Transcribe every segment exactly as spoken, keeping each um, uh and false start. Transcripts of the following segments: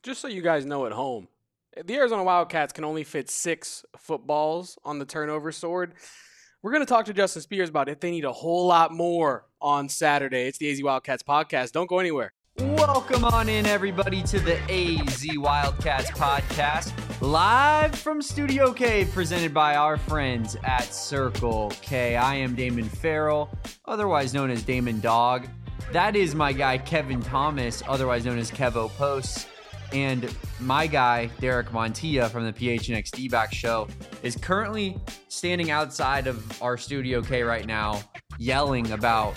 Just so you guys know at home, the Arizona Wildcats can only fit six footballs on the turnover sword. We're going to talk to Justin Spears about if they need a whole lot more on Saturday. It's the A Z Wildcats podcast. Don't go anywhere. Welcome on in, everybody, to the A Z Wildcats podcast, live from Studio K, presented by our friends at Circle K. I am Damon Farrell, otherwise known as Damon Dog. That is my guy, Kevin Thomas, otherwise known as Kevo Posts. And my guy, Derek Montilla from the P H N X D-Back Show, is currently standing outside of our Studio K right now, yelling about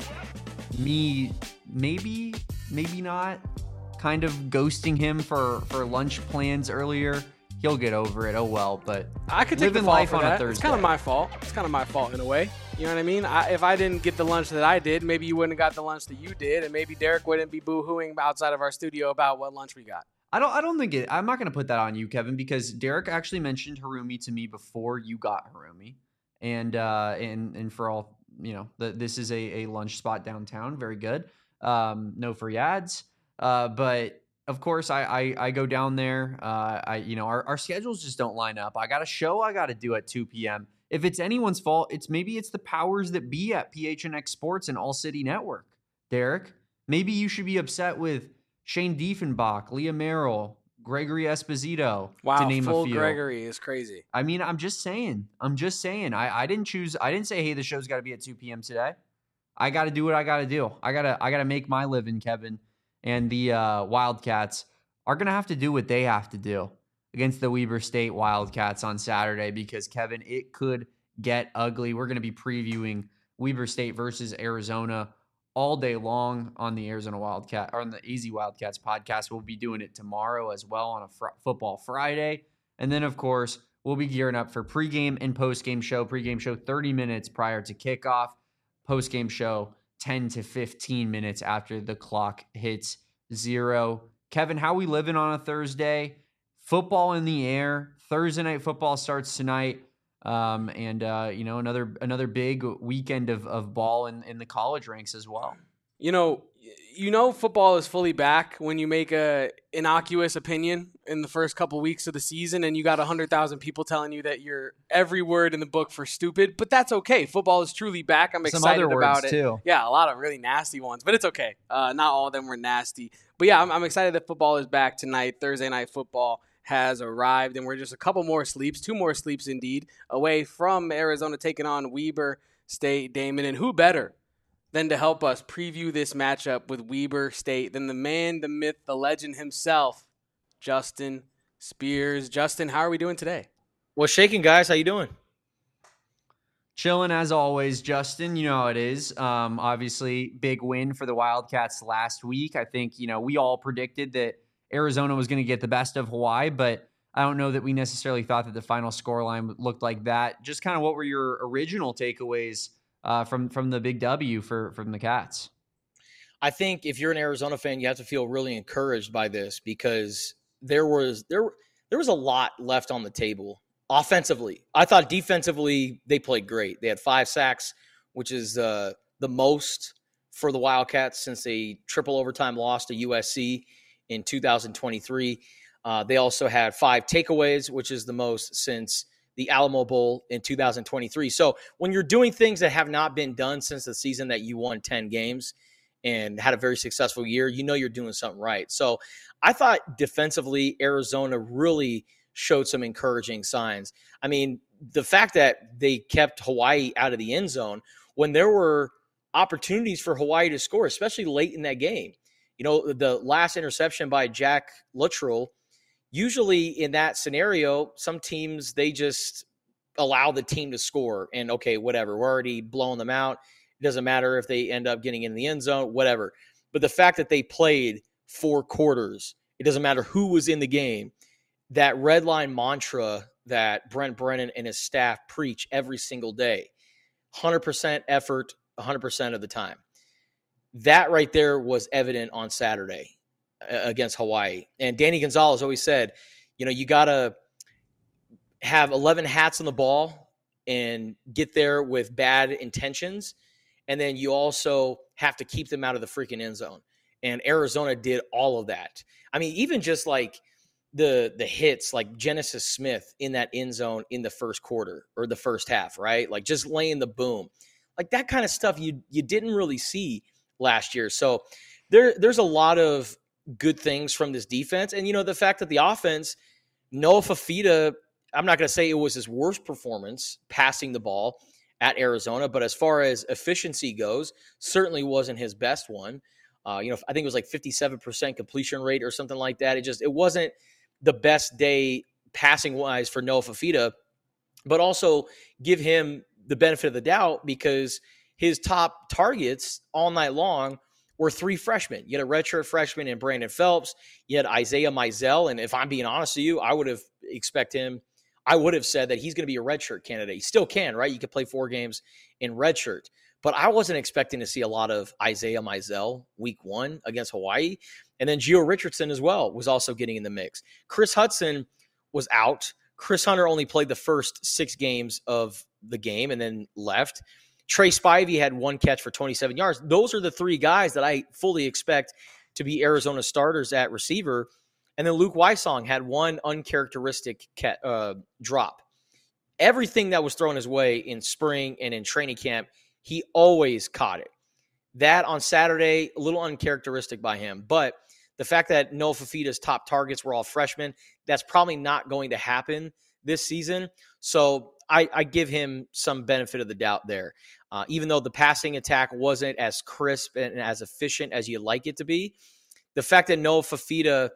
me maybe, maybe not, kind of ghosting him for, for lunch plans earlier. He'll get over it, oh well, but I could take living the fall life for on that. a Thursday. It's kind of my fault. It's kind of my fault in a way. You know what I mean? I, if I didn't get the lunch that I did, maybe you wouldn't have got the lunch that you did, and maybe Derek wouldn't be boo-hooing outside of our studio about what lunch we got. I don't I don't think it I'm not gonna put that on you, Kevin, because Derek actually mentioned Harumi to me before you got Harumi. And uh and and for all you know, the, this is a, a lunch spot downtown, very good. Um, no free ads. Uh, but of course I, I I go down there. Uh I you know, our, our schedules just don't line up. I got a show I gotta do at two p.m. If it's anyone's fault, it's maybe it's the powers that be at P H N X Sports and All City Network. Derek, maybe you should be upset with Shane Diefenbach, Leah Merrill, Gregory Esposito, Wow, to name full a few. Gregory is crazy. I mean, I'm just saying. I'm just saying. I, I didn't choose. I didn't say, hey, the show's got to be at two p.m. today. I got to do what I got to do. I gotta I gotta make my living, Kevin. And the uh, Wildcats are gonna have to do what they have to do against the Weber State Wildcats on Saturday, because Kevin, it could get ugly. We're gonna be previewing Weber State versus Arizona all day long on the Arizona Wildcat or on the A Z Wildcats podcast. We'll be doing it tomorrow as well on a fr- football Friday. And then, of course, we'll be gearing up for pregame and postgame show. Pregame show thirty minutes prior to kickoff. Postgame show ten to fifteen minutes after the clock hits zero. Kevin, how we living on a Thursday? Football in the air. Thursday night football starts tonight. Um, and, uh, you know, another another big weekend of, of ball in, in the college ranks as well. You know, you know football is fully back when you make a innocuous opinion in the first couple weeks of the season and you got one hundred thousand people telling you that you're every word in the book for stupid, but that's okay. Football is truly back. I'm Some excited other about words it. Too. Yeah, a lot of really nasty ones, but it's okay. Uh, not all of them were nasty. But yeah, I'm, I'm excited that football is back tonight. Thursday night football has arrived, and we're just a couple more sleeps, two more sleeps indeed, away from Arizona taking on Weber State, Damon. And who better than to help us preview this matchup with Weber State than the man, the myth, the legend himself, Justin Spears. Justin, how are we doing today? What's shaking, guys? How you doing? Chilling as always, Justin. You know how it is. Um, obviously, big win for the Wildcats last week. I think, you know, we all predicted that Arizona was going to get the best of Hawaii, but I don't know that we necessarily thought that the final scoreline looked like that. Just kind of what were your original takeaways uh, from from the big W for from the Cats? I think if you're an Arizona fan, you have to feel really encouraged by this, because there was there there was a lot left on the table offensively. I thought defensively they played great. They had five sacks, which is uh, the most for the Wildcats since a triple overtime loss to U S C in two thousand twenty-three. Uh, they also had five takeaways, which is the most since the Alamo Bowl in two thousand twenty-three. So when you're doing things that have not been done since the season that you won ten games and had a very successful year, you know you're doing something right. So I thought defensively, Arizona really showed some encouraging signs. I mean, the fact that they kept Hawaii out of the end zone when there were opportunities for Hawaii to score, especially late in that game. You know, the last interception by Jack Luttrell, usually in that scenario, some teams, they just allow the team to score and, okay, whatever, we're already blowing them out. It doesn't matter if they end up getting in the end zone, whatever. But the fact that they played four quarters, it doesn't matter who was in the game, that red line mantra that Brent Brennan and his staff preach every single day, one hundred percent effort, one hundred percent of the time. That right there was evident on Saturday against Hawaii. And Danny Gonzalez always said, you know, you got to have eleven hats on the ball and get there with bad intentions. And then you also have to keep them out of the freaking end zone. And Arizona did all of that. I mean, even just like the the hits like Genesis Smith in that end zone in the first quarter or the first half, right? Like just laying the boom. Like that kind of stuff you you didn't really see last year. So there there's a lot of good things from this defense. And, you know, the fact that the offense, Noah Fafita, I'm not going to say it was his worst performance passing the ball at Arizona, but as far as efficiency goes, certainly wasn't his best one. Uh, you know, I think it was like fifty-seven percent completion rate or something like that. It just, it wasn't the best day passing wise for Noah Fafita, but also give him the benefit of the doubt because his top targets all night long were three freshmen. You had a redshirt freshman in Brandon Phelps. You had Isaiah Mizell. And if I'm being honest with you, I would have expect him, I would have said that he's going to be a redshirt candidate. He still can, right? You could play four games in redshirt. But I wasn't expecting to see a lot of Isaiah Mizell week one against Hawaii. And then Gio Richardson as well was also getting in the mix. Chris Hudson was out. Chris Hunter only played the first six games of the game and then left. Trey Spivey had one catch for twenty-seven yards. Those are the three guys that I fully expect to be Arizona starters at receiver. And then Luke Wysong had one uncharacteristic cat, uh, drop. Everything that was thrown his way in spring and in training camp, he always caught it. That on Saturday, a little uncharacteristic by him. But the fact that Noah Fafita's top targets were all freshmen, that's probably not going to happen this season. So I, I give him some benefit of the doubt there. Uh, even though the passing attack wasn't as crisp and as efficient as you'd like it to be, the fact that Noah Fafita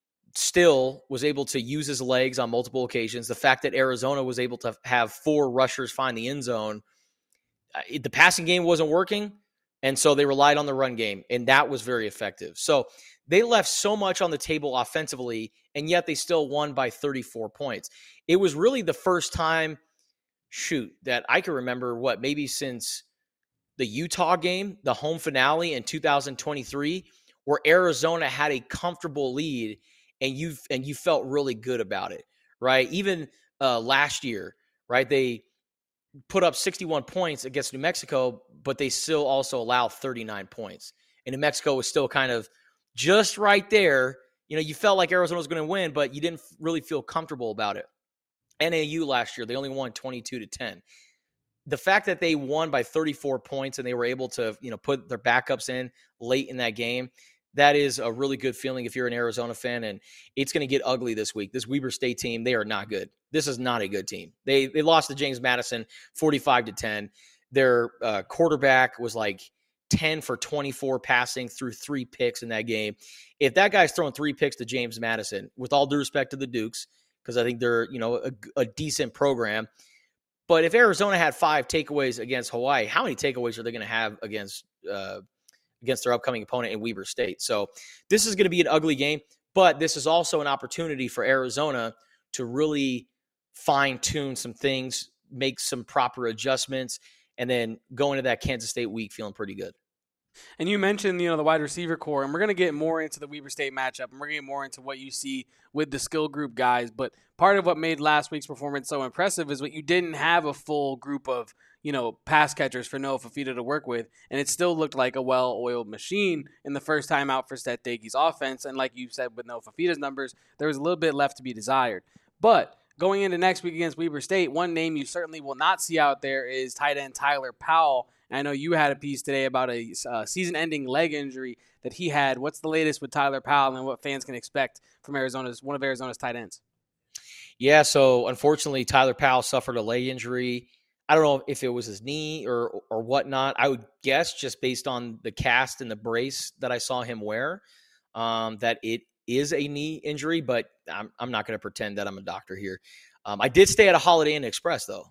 still was able to use his legs on multiple occasions, the fact that Arizona was able to have four rushers find the end zone, uh, the passing game wasn't working, and so they relied on the run game, and that was very effective. So they left so much on the table offensively, and yet they still won by thirty-four points. It was really the first time, shoot, that I can remember, what, maybe since the Utah game, the home finale in two thousand twenty-three, where Arizona had a comfortable lead and you and you felt really good about it, right? Even uh, last year, right? They put up sixty-one points against New Mexico, but they still also allow thirty-nine points. And New Mexico was still kind of just right there. You know, you felt like Arizona was going to win, but you didn't really feel comfortable about it. N A U last year, they only won twenty-two to ten. The fact that they won by thirty-four points and they were able to, you know, put their backups in late in that game, that is a really good feeling if you're an Arizona fan, and it's going to get ugly this week. This Weber State team, they are not good. This is not a good team. They they lost to James Madison forty-five to ten. Their uh, quarterback was like ten for twenty-four passing, through three picks in that game. If that guy's throwing three picks to James Madison, with all due respect to the Dukes, because I think they're, you know, a, a decent program. But if Arizona had five takeaways against Hawaii, how many takeaways are they going to have against uh, against their upcoming opponent in Weber State? So this is going to be an ugly game, but this is also an opportunity for Arizona to really fine-tune some things, make some proper adjustments, and then go into that Kansas State week feeling pretty good. And you mentioned, you know, the wide receiver core, and we're going to get more into the Weber State matchup, and we're going to get more into what you see with the skill group guys. But part of what made last week's performance so impressive is what you didn't have a full group of, you know, pass catchers for Noah Fafita to work with, and it still looked like a well-oiled machine in the first time out for Seth Daigie's offense. And like you said, with Noah Fafita's numbers, there was a little bit left to be desired. But going into next week against Weber State, one name you certainly will not see out there is tight end Tyler Powell. I know you had a piece today about a uh, season-ending leg injury that he had. What's the latest with Tyler Powell and what fans can expect from Arizona's one of Arizona's tight ends? Yeah, so unfortunately, Tyler Powell suffered a leg injury. I don't know if it was his knee or or whatnot. I would guess, just based on the cast and the brace that I saw him wear, um, that it is a knee injury. But I'm I'm not going to pretend that I'm a doctor here. Um, I did stay at a Holiday Inn Express though,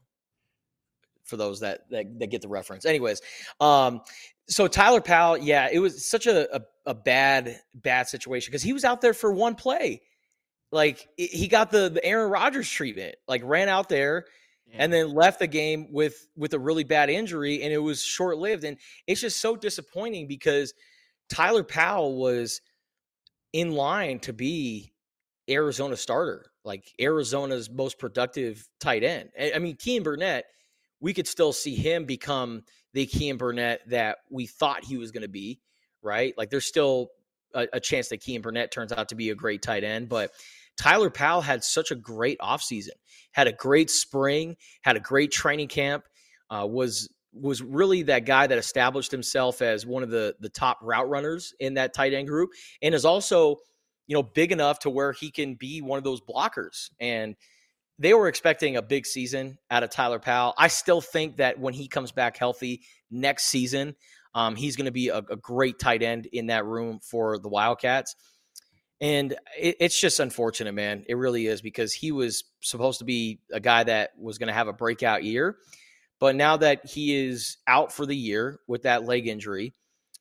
for those that, that that get the reference. Anyways, um, so Tyler Powell, yeah, it was such a, a, a bad, bad situation because he was out there for one play. Like, it, he got the, the Aaron Rodgers treatment, like ran out there yeah. and then left the game with, with a really bad injury, and it was short-lived. And it's just so disappointing because Tyler Powell was in line to be Arizona starter, like Arizona's most productive tight end. I mean, Kean Burnett, we could still see him become the Kean Burnett that we thought he was going to be, right? Like, there's still a, a chance that Kean Burnett turns out to be a great tight end, but Tyler Powell had such a great offseason, had a great spring, had a great training camp, uh, was was really that guy that established himself as one of the, the top route runners in that tight end group, and is also, you know, big enough to where he can be one of those blockers. And they were expecting a big season out of Tyler Powell. I still think that when he comes back healthy next season, um, he's going to be a, a great tight end in that room for the Wildcats. And it, it's just unfortunate, man. It really is, because he was supposed to be a guy that was going to have a breakout year. But now that he is out for the year with that leg injury,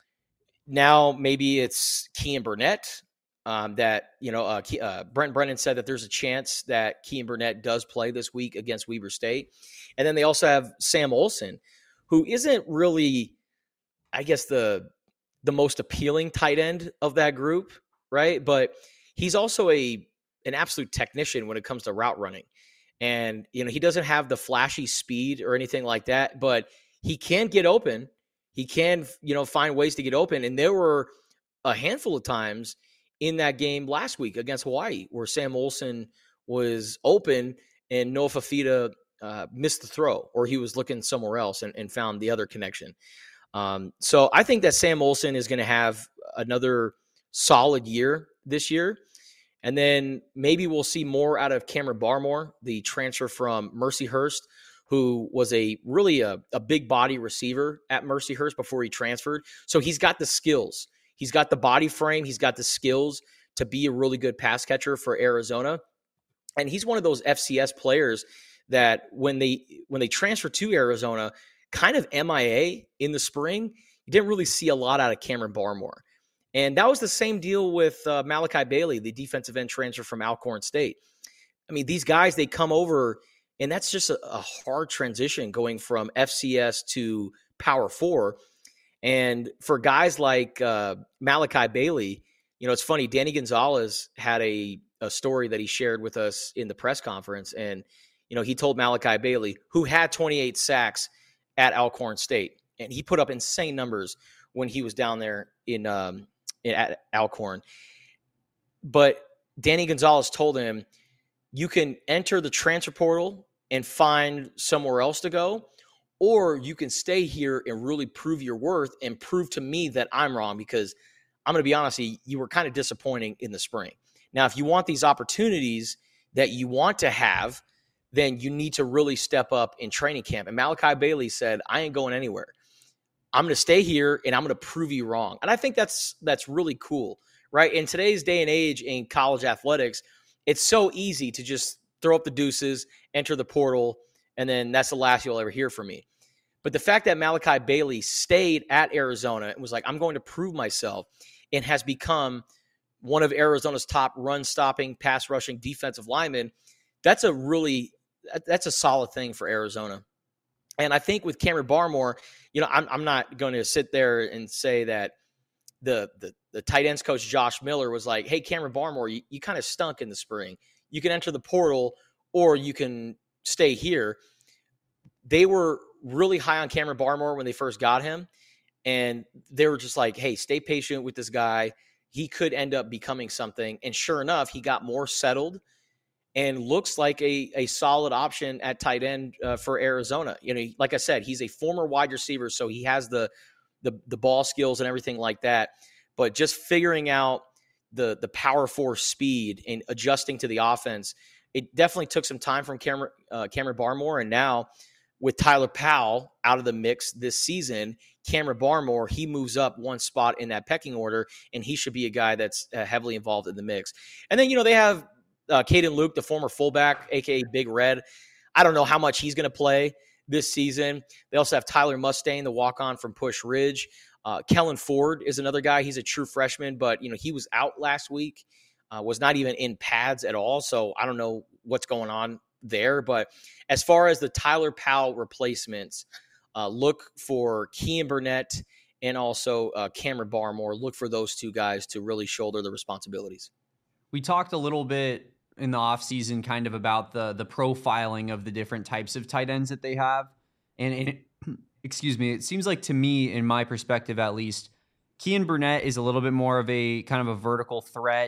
now maybe it's Kean Burnett. Um, that, you know, uh, uh, Brent Brennan said that there's a chance that Kean Burnett does play this week against Weber State. And then they also have Sam Olson, who isn't really, I guess, the the most appealing tight end of that group, right? But he's also a an absolute technician when it comes to route running. And, you know, he doesn't have the flashy speed or anything like that, but he can get open. He can, you know, find ways to get open. And there were a handful of times in that game last week against Hawaii where Sam Olson was open and Noah Fafita uh, missed the throw, or he was looking somewhere else and, and found the other connection. Um, so I think that Sam Olson is going to have another solid year this year. And then maybe we'll see more out of Cameron Barmore, the transfer from Mercyhurst, who was a really a, a big body receiver at Mercyhurst before he transferred. So he's got the skills. He's got the body frame. He's got the skills to be a really good pass catcher for Arizona. And he's one of those F C S players that when they when they transfer to Arizona, kind of M I A in the spring, you didn't really see a lot out of Cameron Barmore. And that was the same deal with uh, Malachi Bailey, the defensive end transfer from Alcorn State. I mean, these guys, they come over, and that's just a, a hard transition going from F C S to Power Four. And for guys like uh, Malachi Bailey, you know, it's funny, Danny Gonzalez had a, a story that he shared with us in the press conference. And, you know, he told Malachi Bailey, who had twenty-eight sacks at Alcorn State, and he put up insane numbers when he was down there in, um, in at Alcorn. But Danny Gonzalez told him, you can enter the transfer portal and find somewhere else to go, or you can stay here and really prove your worth and prove to me that I'm wrong, because I'm going to be honest, you were kind of disappointing in the spring. Now, if you want these opportunities that you want to have, then you need to really step up in training camp. And Malachi Bailey said, I ain't going anywhere. I'm going to stay here and I'm going to prove you wrong. And I think that's that's really cool, right? In today's day and age in college athletics, it's so easy to just throw up the deuces, enter the portal, and then that's the last you'll ever hear from me. But the fact that Malachi Bailey stayed at Arizona and was like, I'm going to prove myself, and has become one of Arizona's top run-stopping, pass-rushing defensive linemen, that's a really that's a solid thing for Arizona. And I think with Cameron Barmore, you know, I'm I'm not going to sit there and say that the the the tight ends coach Josh Miller was like, hey, Cameron Barmore, you, you kind of stunk in the spring. You can enter the portal or you can stay here. They were really high on Cameron Barmore when they first got him. And they were just like, hey, stay patient with this guy. He could end up becoming something. And sure enough, he got more settled and looks like a, a solid option at tight end uh, for Arizona. You know, like I said, he's a former wide receiver, so he has the, the the ball skills and everything like that. But just figuring out the the power force speed and adjusting to the offense, it definitely took some time from Cameron, uh, Cameron Barmore. And now with Tyler Powell out of the mix this season, Cameron Barmore, he moves up one spot in that pecking order, and he should be a guy that's uh, heavily involved in the mix. And then, you know, they have uh, Caden Luke, the former fullback, a k a. Big Red. I don't know how much he's going to play this season. They also have Tyler Mustaine, the walk-on from Push Ridge. Uh, Kellen Ford is another guy. He's a true freshman, but, you know, he was out last week, uh, was not even in pads at all, so I don't know what's going on there. But as far as the Tyler Powell replacements, uh, look for Kean Burnett and also uh, Cameron Barmore. Look for those two guys to really shoulder the responsibilities. We talked a little bit in the offseason kind of about the the profiling of the different types of tight ends that they have. And it, excuse me, it seems like to me, in my perspective at least, Kean Burnett is a little bit more of a kind of a vertical threat,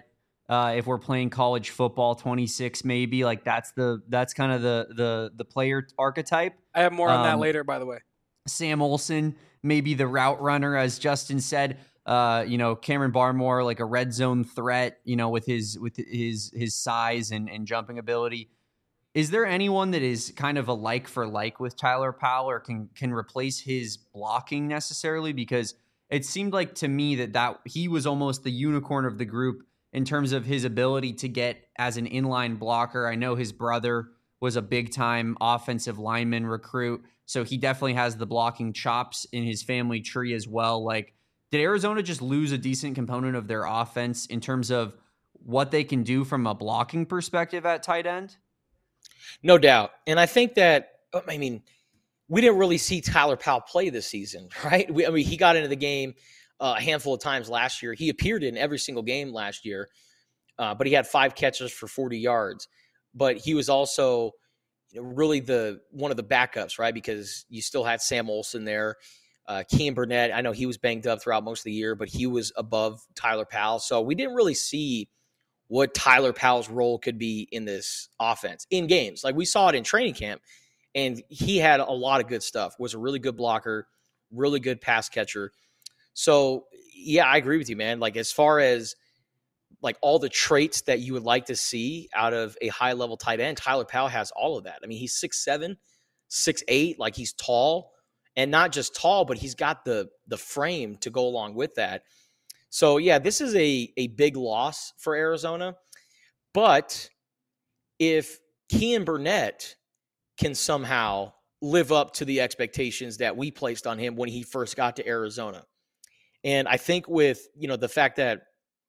Uh, if we're playing college football, twenty-six maybe, like that's the that's kind of the the the player archetype. I have more on that Um, later, by the way. Sam Olson, maybe the route runner, as Justin said. Uh, you know, Cameron Barmore, like a red zone threat, you know, with his with his his size and, and jumping ability. Is there anyone that is kind of a like for like with Tyler Powell or can can replace his blocking necessarily? Because it seemed like to me that, that he was almost the unicorn of the group in terms of his ability to get as an inline blocker. I know his brother was a big time offensive lineman recruit, so he definitely has the blocking chops in his family tree as well. Like, did Arizona just lose a decent component of their offense in terms of what they can do from a blocking perspective at tight end? No doubt. And I think that, I mean, we didn't really see Tyler Powell play this season, right? We, I mean, he got into the game uh, a handful of times last year. He appeared in every single game last year, uh, but he had five catches for forty yards. But he was also, you know, really the one of the backups, right? Because you still had Sam Olson there. Uh, Kean Burnett, I know he was banged up throughout most of the year, but he was above Tyler Powell. So we didn't really see what Tyler Powell's role could be in this offense in games. Like we saw it in training camp, and he had a lot of good stuff, was a really good blocker, really good pass catcher. So, yeah, I agree with you, man. Like as far as like all the traits that you would like to see out of a high-level tight end, Tyler Powell has all of that. I mean, he's six seven, six eight, like he's tall. And not just tall, but he's got the the frame to go along with that. So, yeah, this is a, a big loss for Arizona. But if Kean Burnett can somehow live up to the expectations that we placed on him when he first got to Arizona, and I think with, you know, the fact that,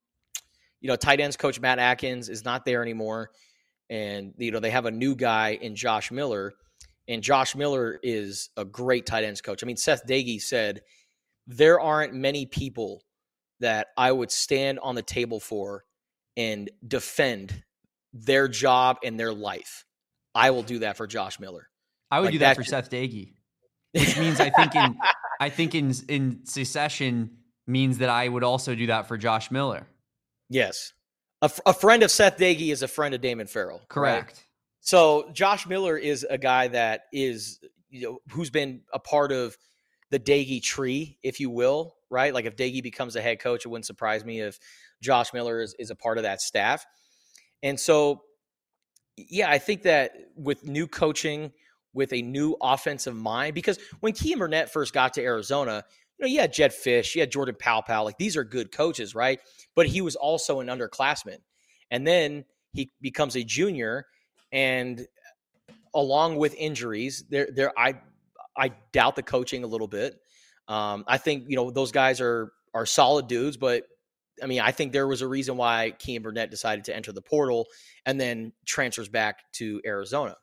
you know, tight ends coach Matt Atkins is not there anymore, and, you know, they have a new guy in Josh Miller, and Josh Miller is a great tight ends coach. I mean, Seth Dagey said, there aren't many people that I would stand on the table for and defend their job and their life. I will do that for Josh Miller. I would like do that for just... Seth Dagey, which means I think in I think in in succession means that I would also do that for Josh Miller. Yes, a, f- a friend of Seth Dagey is a friend of Damon Farrell. Correct. Right? So Josh Miller is a guy that is, you know, who's been a part of the Dagey tree, if you will, right? Like if Dagey becomes a head coach, it wouldn't surprise me if Josh Miller is, is a part of that staff. And so, yeah, I think that with new coaching, with a new offensive mind, because when Kean Burnett first got to Arizona, you know, you had Jed Fish, you had Jordan Powell, like these are good coaches, right? But he was also an underclassman. And then he becomes a junior, and along with injuries, there, there, I, I doubt the coaching a little bit. Um, I think, you know, those guys are are solid dudes, but I mean, I think there was a reason why Kean Burnett decided to enter the portal and then transfers back to Arizona.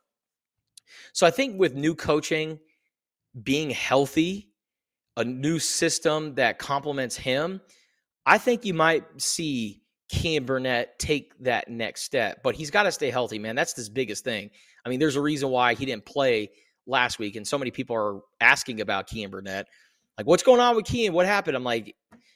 So I think with new coaching, being healthy, a new system that complements him, I think you might see Kean Burnett take that next step. But he's got to stay healthy, man. That's his biggest thing. I mean, there's a reason why he didn't play last week, and so many people are asking about Kean Burnett. Like, what's going on with Kean? What happened? I'm like,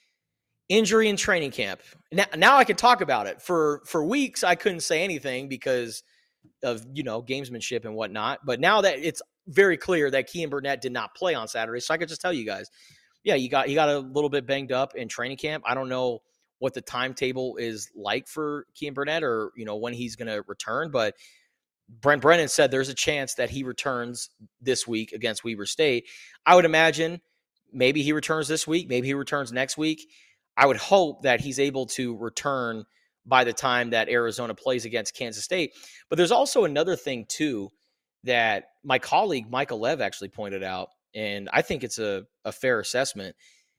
injury in training camp. Now, now I can talk about it. For for weeks, I couldn't say anything because of, you know, gamesmanship and whatnot. But now that it's very clear that Kean Burnett did not play on Saturday, so I could just tell you guys, yeah, you got he got a little bit banged up in training camp. I don't know what the timetable is like for Kean Burnett, or, you know, when he's going to return, but Brent Brennan said there's a chance that he returns this week against Weber State. I would imagine maybe he returns this week. Maybe he returns next week. I would hope that he's able to return by the time that Arizona plays against Kansas State. But there's also another thing, too, that my colleague Michael Lev actually pointed out, and I think it's a, a fair assessment.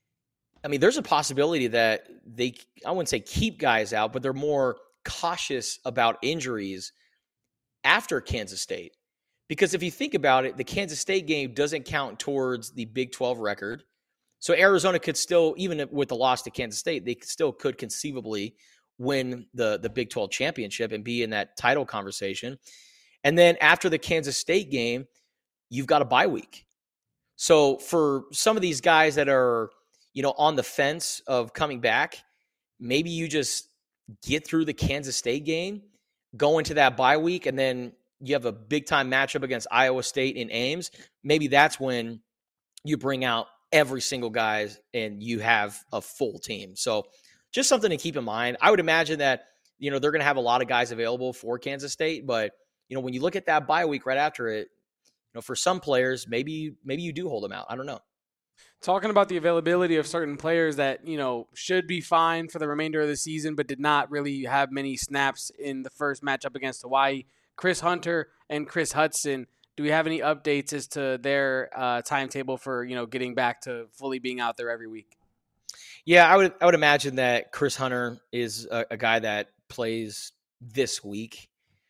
I mean, there's a possibility that they, I wouldn't say keep guys out, but they're more cautious about injuries after Kansas State. Because if you think about it, the Kansas State game doesn't count towards the Big twelve record. So Arizona could still, even with the loss to Kansas State, they still could conceivably win the, the Big twelve championship and be in that title conversation. And then after the Kansas State game, you've got a bye week. So for some of these guys that are, you know, on the fence of coming back, maybe you just get through the Kansas State game, go into that bye week, and then you have a big-time matchup against Iowa State in Ames, maybe that's when you bring out every single guy and you have a full team. So just something to keep in mind. I would imagine that, you know, they're going to have a lot of guys available for Kansas State, but, you know, when you look at that bye week right after it, you know, for some players, maybe maybe you do hold them out. I don't know. Talking about the availability of certain players that, you know, should be fine for the remainder of the season, but did not really have many snaps in the first matchup against Hawaii. Chris Hunter and Chris Hudson, do we have any updates as to their uh, timetable for, you know, getting back to fully being out there every week? Yeah, I would I would imagine that Chris Hunter is a, a guy that plays this week.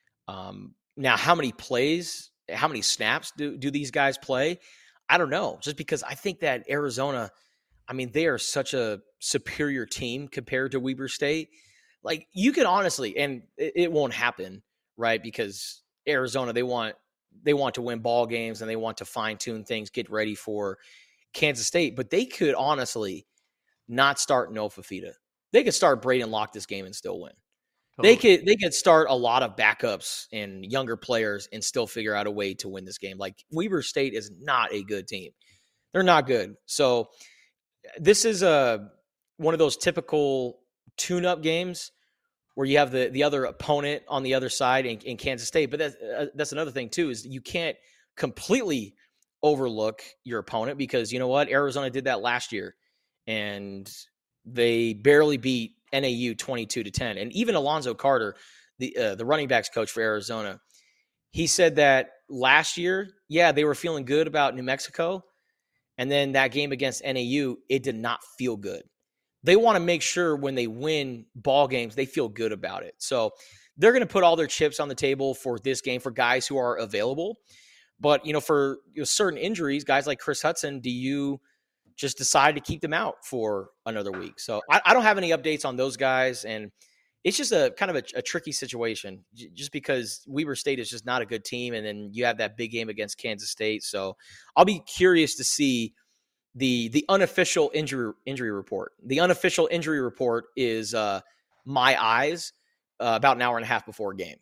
Um, now, how many plays, how many snaps do, do these guys play? I don't know, just because I think that Arizona, I mean, they are such a superior team compared to Weber State. Like, you can honestly, and it, it won't happen, right? Because Arizona, they want they want to win ball games and they want to fine tune things, get ready for Kansas State. But they could honestly not start Noah Fifita. They could start Braden Locke this game and still win. Totally. They could they could start a lot of backups and younger players and still figure out a way to win this game. Like, Weber State is not a good team. They're not good. So this is a one of those typical tune-up games where you have the, the other opponent on the other side in, in Kansas State. But that's, uh, that's another thing, too, is you can't completely overlook your opponent because, you know what, Arizona did that last year, and they barely beat N A U twenty-two to ten. And even Alonzo Carter, the uh, the running backs coach for Arizona, he said that last year, yeah, they were feeling good about New Mexico. And then that game against N A U, it did not feel good. They want to make sure when they win ball games, they feel good about it. So they're going to put all their chips on the table for this game for guys who are available. But, you know, for you know, certain injuries, guys like Chris Hudson, do you just decide to keep them out for another week? So I, I don't have any updates on those guys. And it's just a kind of a, a tricky situation j- just because Weber State is just not a good team. And then you have that big game against Kansas State. So I'll be curious to see the the unofficial injury injury report. The unofficial injury report is uh, my eyes uh, about an hour and a half before a game.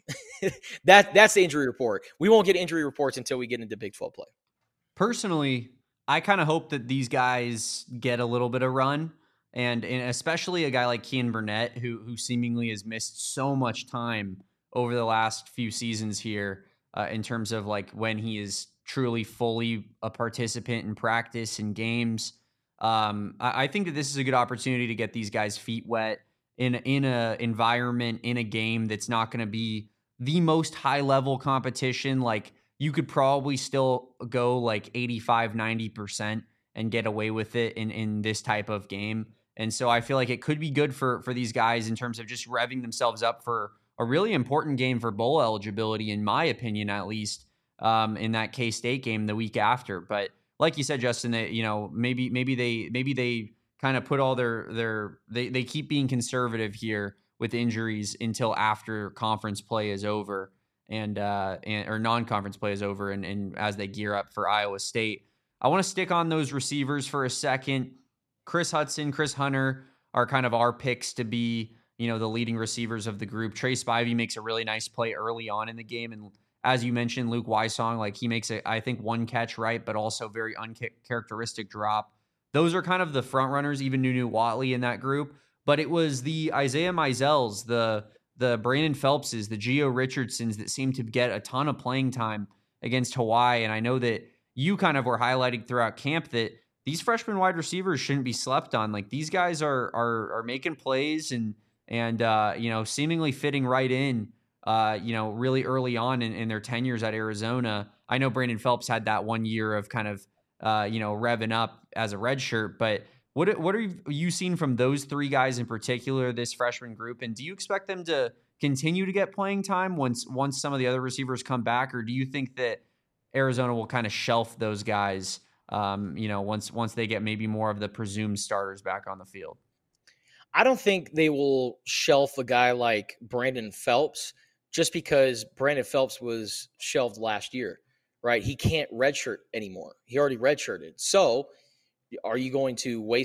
that That's the injury report. We won't get injury reports until we get into Big twelve play. Personally, I kind of hope that these guys get a little bit of run, and, and especially a guy like Kean Burnett, who who seemingly has missed so much time over the last few seasons here uh, in terms of like when he is truly fully a participant in practice and games. Um, I, I think that this is a good opportunity to get these guys' feet wet in in a environment, in a game that's not going to be the most high level competition. Like, you could probably still go like eighty-five, ninety percent and get away with it in, in this type of game. And so I feel like it could be good for, for these guys in terms of just revving themselves up for a really important game for bowl eligibility, in my opinion, at least, um, in that K-State game the week after. But like you said, Justin, that, you know, maybe, maybe they, maybe they kind of put all their, their, they, they keep being conservative here with injuries until after conference play is over. And, uh, and or non-conference play is over, and, and as they gear up for Iowa State. I want to stick on those receivers for a second. Chris Hudson, Chris Hunter are kind of our picks to be, you know, the leading receivers of the group. Trey Spivey makes a really nice play early on in the game, and as you mentioned, Luke Wysong, like he makes a, I think, one catch right, but also very uncharacteristic drop. Those are kind of the front runners, even Nunu Watley in that group. But it was the Isaiah Mizels, the the Brandon Phelpses, the Gio Richardsons that seemed to get a ton of playing time against Hawaii. And I know that you kind of were highlighting throughout camp that these freshman wide receivers shouldn't be slept on. Like, these guys are are are making plays and and uh, you know, seemingly fitting right in. Uh, you know, really early on in, in their tenures at Arizona. I know Brandon Phelps had that one year of kind of uh, you know, revving up as a redshirt, but What what are you seen from those three guys in particular, this freshman group? And do you expect them to continue to get playing time once once some of the other receivers come back, or do you think that Arizona will kind of shelf those guys, um, you know, once once they get maybe more of the presumed starters back on the field? I don't think they will shelf a guy like Brandon Phelps just because Brandon Phelps was shelved last year, right? He can't redshirt anymore. He already redshirted. So are you going to waste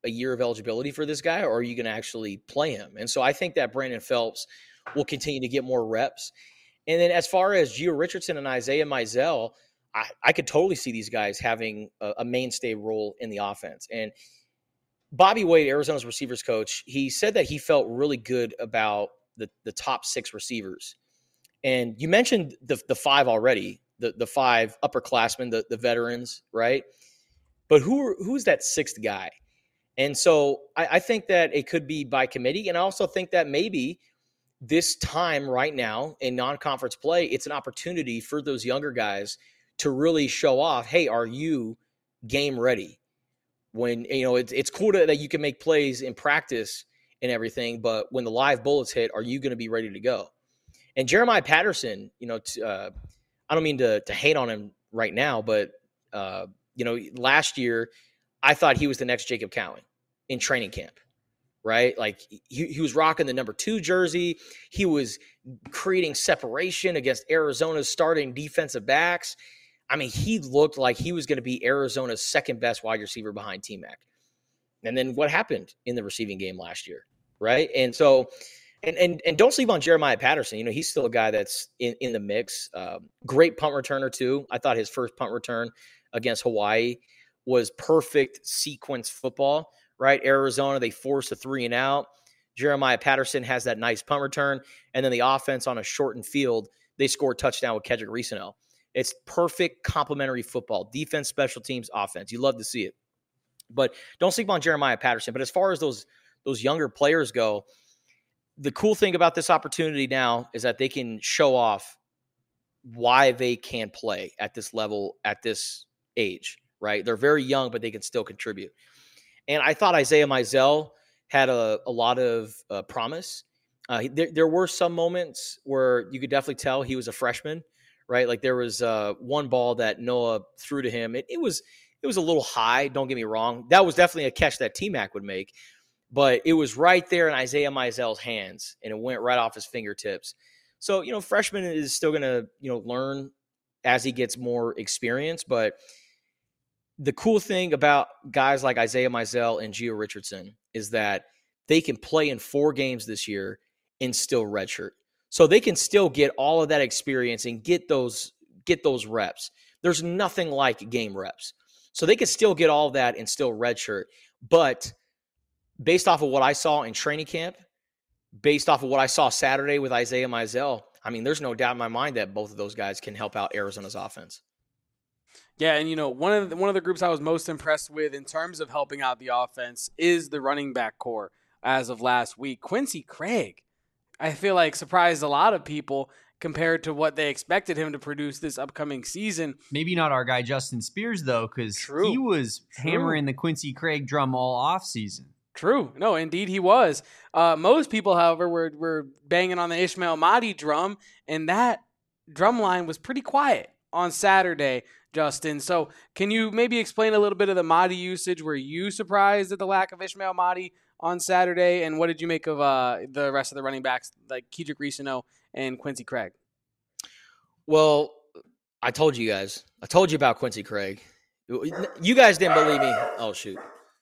a year of eligibility for this guy, or are you going to actually play him? And so I think that Brandon Phelps will continue to get more reps. And then as far as Gio Richardson and Isaiah Mizell, I, I could totally see these guys having a, a mainstay role in the offense. And Bobby Wade, Arizona's receivers coach, he said that he felt really good about the, the top six receivers. And you mentioned the the five already, the the five upperclassmen, the, the veterans, right? But who who's that sixth guy? And so I, I think that it could be by committee. And I also think that maybe this time right now in non-conference play, it's an opportunity for those younger guys to really show off, hey, are you game ready? When, you know, it's, it's cool to, that you can make plays in practice and everything, but when the live bullets hit, are you going to be ready to go? And Jeremiah Patterson, you know, t- uh, I don't mean to, to hate on him right now, but, uh, you know, last year I thought he was the next Jacob Cowan in training camp, right? Like he, he was rocking the number two jersey. He was creating separation against Arizona's starting defensive backs. I mean, he looked like he was going to be Arizona's second best wide receiver behind T-Mac. And then what happened in the receiving game last year, right? And so, and and and don't sleep on Jeremiah Patterson. You know, he's still a guy that's in, in the mix. Um, great punt returner too. I thought his first punt return against Hawaii was perfect sequence football, right? Arizona, they forced a three and out. Jeremiah Patterson has that nice punt return. And then the offense on a shortened field, they scored a touchdown with Kedrick Reesonel. It's perfect complementary football, defense, special teams, offense. You love to see it. But don't sleep on Jeremiah Patterson. But as far as those those younger players go, the cool thing about this opportunity now is that they can show off why they can play at this level, at this age, right? They're very young, but they can still contribute. And I thought Isaiah Mizell had a, a lot of uh, promise. Uh, there, there were some moments where you could definitely tell he was a freshman, right? Like there was uh, one ball that Noah threw to him. It, it was it was a little high, don't get me wrong. That was definitely a catch that T-Mac would make. But it was right there in Isaiah Mizell's hands, and it went right off his fingertips. So, you know, freshman is still going to, you know, learn as he gets more experience. But the cool thing about guys like Isaiah Mizell and Gio Richardson is that they can play in four games this year and still redshirt. So they can still get all of that experience and get those get those reps. There's nothing like game reps. So they can still get all of that and still redshirt. But based off of what I saw in training camp, based off of what I saw Saturday with Isaiah Mizell, I mean, there's no doubt in my mind that both of those guys can help out Arizona's offense. Yeah, and you know, one of the, one of the groups I was most impressed with in terms of helping out the offense is the running back core as of last week. Quincy Craig, I feel like surprised a lot of people compared to what they expected him to produce this upcoming season. Maybe not our guy Justin Spears, though, because he was True. hammering the Quincy Craig drum all offseason. True. No, indeed he was. Uh, most people, however, were, were banging on the Ishmael Mahdi drum, and that drum line was pretty quiet on Saturday, Justin. So can you maybe explain a little bit of the Mahdi usage? Were you surprised at the lack of Ishmael Mahdi on Saturday? And what did you make of uh, the rest of the running backs, like Kedrick Reesonel and Quincy Craig? Well, I told you guys. I told you about Quincy Craig. You guys didn't believe me. Oh, shoot.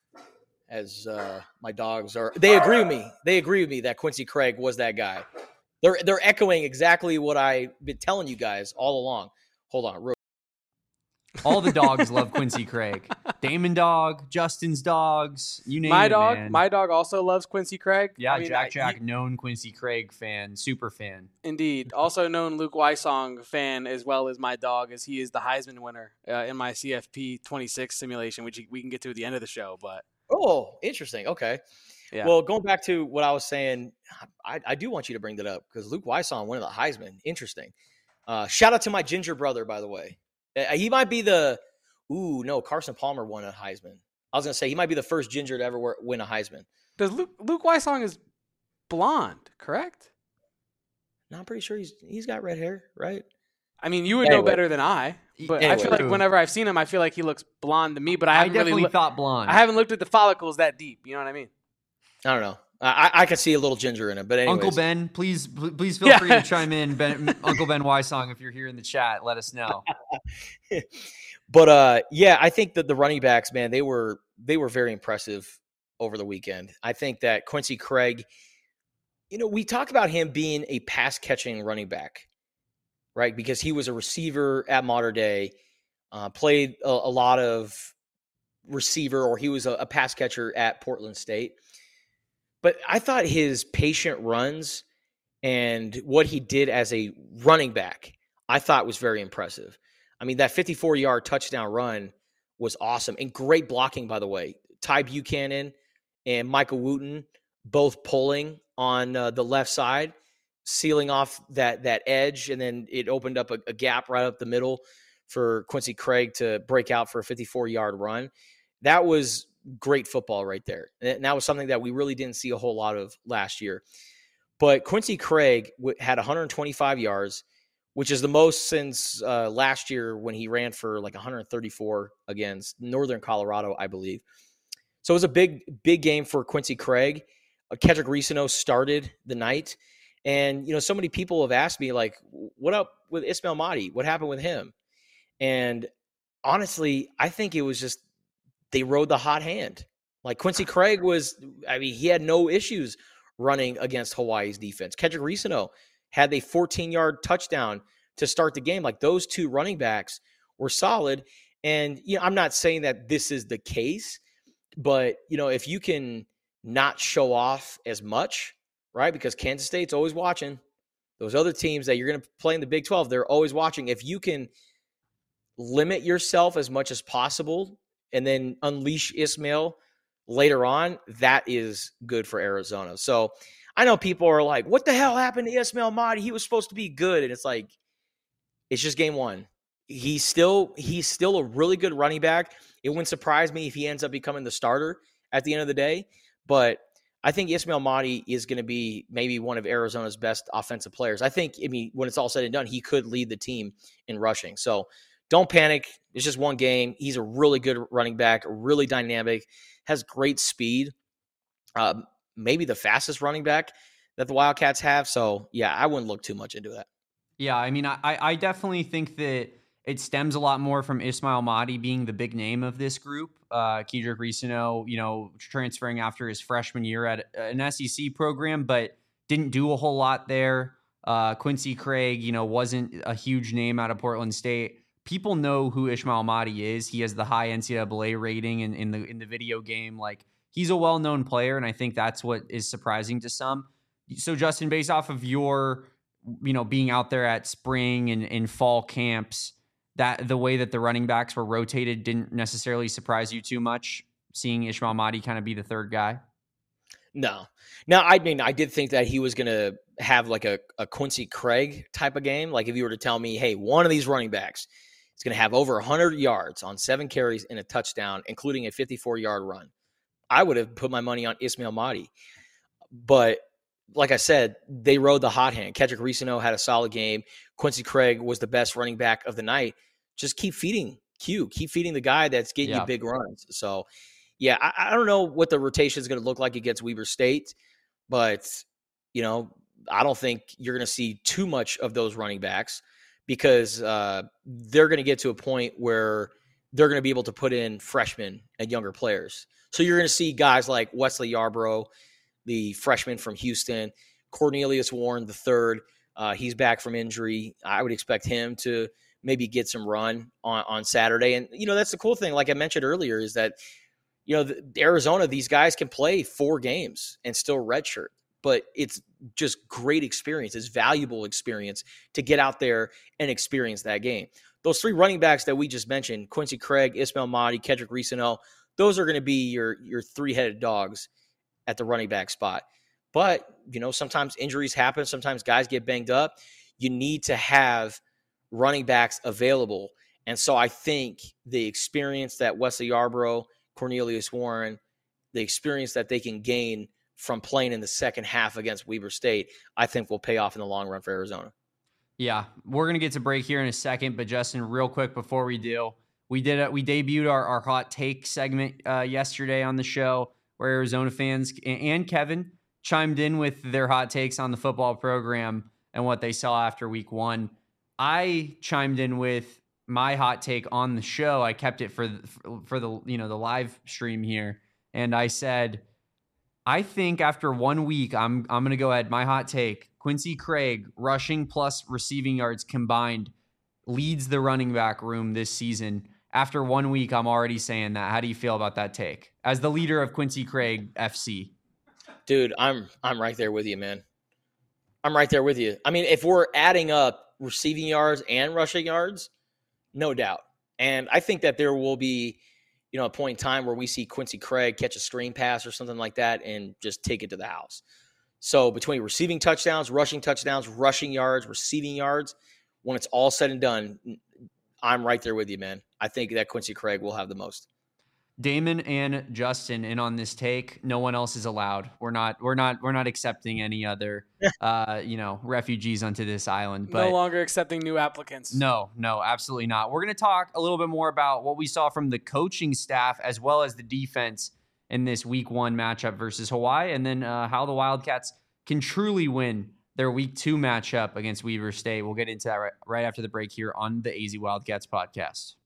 As uh, my dogs are, they agree with me. They agree with me that Quincy Craig was that guy. They're they're echoing exactly what I've been telling you guys all along. Hold on, real. All the dogs love Quincy Craig. Damon dog, Justin's dogs, you name my it, dog, man. My dog also loves Quincy Craig. Yeah, I mean, Jack I, Jack, he, known Quincy Craig fan, super fan. Indeed. Also known Luke Wysong fan as well as my dog, as he is the Heisman winner uh, in my C F P twenty-six simulation, which we can get to at the end of the show. But Oh, interesting. Okay. yeah. Well, going back to what I was saying, I, I do want you to bring that up because Luke Wysong winning the Heisman. Interesting. Uh, shout out to my ginger brother, by the way. Uh, he might be the – ooh, no, Carson Palmer won a Heisman. I was going to say he might be the first ginger to ever win a Heisman. Does Luke, Luke Wysong is blonde, correct? No, I'm pretty sure he's he's got red hair, right? I mean, you would Anyway. know better than I, but I Anyway. feel like whenever I've seen him, I feel like he looks blonde to me, but I I, haven't definitely really looked, thought blonde. I haven't looked at the follicles that deep. You know what I mean? I don't know. I, I could see a little ginger in it, but anyways. Uncle Ben, please please feel Yeah. free to chime in. Ben, Uncle Ben Wysong, if you're here in the chat, let us know. But uh, yeah, I think that the running backs, man, they were they were very impressive over the weekend. I think that Quincy Craig, you know, we talk about him being a pass catching running back, right? Because he was a receiver at Mater Dei, uh, played a, a lot of receiver, or he was a, a pass catcher at Portland State. But I thought his patient runs and what he did as a running back, I thought was very impressive. I mean, that fifty-four-yard touchdown run was awesome. And great blocking, by the way. Ty Buchanan and Michael Wooten both pulling on uh, the left side, sealing off that that edge, and then it opened up a, a gap right up the middle for Quincy Craig to break out for a fifty-four-yard run. That was great football right there. And that was something that we really didn't see a whole lot of last year. But Quincy Craig had one hundred twenty-five yards, which is the most since uh, last year when he ran for like one hundred thirty-four against Northern Colorado, I believe. So it was a big, big game for Quincy Craig. Uh, Kedrick Reesano started the night. And, you know, so many people have asked me, like, what up with Ismail Mahdi? What happened with him? And honestly, I think it was just they rode the hot hand. Like Quincy Craig was, I mean, he had no issues running against Hawaii's defense. Kedrick Reesano had a fourteen-yard touchdown to start the game. Like those two running backs were solid. And, you know, I'm not saying that this is the case, but, you know, if you can not show off as much, right? Because Kansas State's always watching. Those other teams that you're going to play in the Big twelve, they're always watching. If you can limit yourself as much as possible and then unleash Ismail later on, that is good for Arizona. So I know people are like, what the hell happened to Ismail Mahdi? He was supposed to be good. And it's like, it's just game one. He's still, he's still a really good running back. It wouldn't surprise me if he ends up becoming the starter at the end of the day. But I think Ismail Mahdi is going to be maybe one of Arizona's best offensive players. I think, I mean, when it's all said and done, he could lead the team in rushing. So don't panic. It's just one game. He's a really good running back, really dynamic, has great speed, uh, maybe the fastest running back that the Wildcats have. So, yeah, I wouldn't look too much into that. Yeah, I mean, I, I definitely think that it stems a lot more from Ismail Mahdi being the big name of this group. Uh, Kedrick Reesano, you know, transferring after his freshman year at an S E C program, but didn't do a whole lot there. Uh, Quincy Craig, you know, wasn't a huge name out of Portland State. People know who Ismail Mahdi is. He has the high N C double A rating in, in the in the video game. Like, he's a well-known player, and I think that's what is surprising to some. So, Justin, based off of your, you know, being out there at spring and in fall camps, that the way that the running backs were rotated didn't necessarily surprise you too much, seeing Ismail Mahdi kind of be the third guy? No. Now, I mean, I did think that he was going to have like a, a Quincy Craig type of game. Like if you were to tell me, hey, one of these running backs is going to have over one hundred yards on seven carries and a touchdown, including a fifty-four-yard run, I would have put my money on Ismail Mahdi. But like I said, they rode the hot hand. Kedrick Reesano had a solid game. Quincy Craig was the best running back of the night. Just keep feeding Q. Keep feeding the guy that's getting Yeah. you big runs. So, yeah, I, I don't know what the rotation is going to look like against Weber State, but, you know, I don't think you're going to see too much of those running backs because uh, they're going to get to a point where they're going to be able to put in freshmen and younger players. So you're going to see guys like Wesley Yarbrough, the freshman from Houston, Cornelius Warren the third. Uh, he's back from injury. I would expect him to maybe get some run on, on Saturday. And, you know, that's the cool thing, like I mentioned earlier, is that, you know, the, Arizona, these guys can play four games and still redshirt. But it's just great experience. It's valuable experience to get out there and experience that game. Those three running backs that we just mentioned, Quincy Craig, Ismail Mahdi, Kedrick Reesano, those are going to be your your three-headed dogs at the running back spot. But, you know, sometimes injuries happen. Sometimes guys get banged up. You need to have running backs available. And so I think the experience that Wesley Yarbrough, Cornelius Warren, the experience that they can gain from playing in the second half against Weber State, I think will pay off in the long run for Arizona. Yeah, we're going to get to break here in a second, but Justin, real quick before we do, we did a, we debuted our, our hot take segment uh, yesterday on the show where Arizona fans and Kevin chimed in with their hot takes on the football program and what they saw after week one. I chimed in with my hot take on the show. I kept it for the, for the, you know, the live stream here. and I said, I think after one week, I'm I'm going to go ahead. My hot take, Quincy Craig, rushing plus receiving yards combined, leads the running back room this season. After one week, I'm already saying that. How do you feel about that take? As the leader of Quincy Craig F C. Dude, I'm I'm right there with you, man. I'm right there with you. I mean, if we're adding up receiving yards and rushing yards, no doubt. And I think that there will be, you know, a point in time where we see Quincy Craig catch a screen pass or something like that and just take it to the house. So between receiving touchdowns, rushing touchdowns, rushing yards, receiving yards, when it's all said and done, I'm right there with you, man. I think that Quincy Craig will have the most. Damon and Justin in on this take. No one else is allowed. We're not. We're not. We're not accepting any other, uh, you know, refugees onto this island. But no longer accepting new applicants. No, no, absolutely not. We're going to talk a little bit more about what we saw from the coaching staff as well as the defense in this Week One matchup versus Hawaii, and then uh, how the Wildcats can truly win their Week Two matchup against Weber State. We'll get into that right, right after the break here on the A Z Wildcats podcast.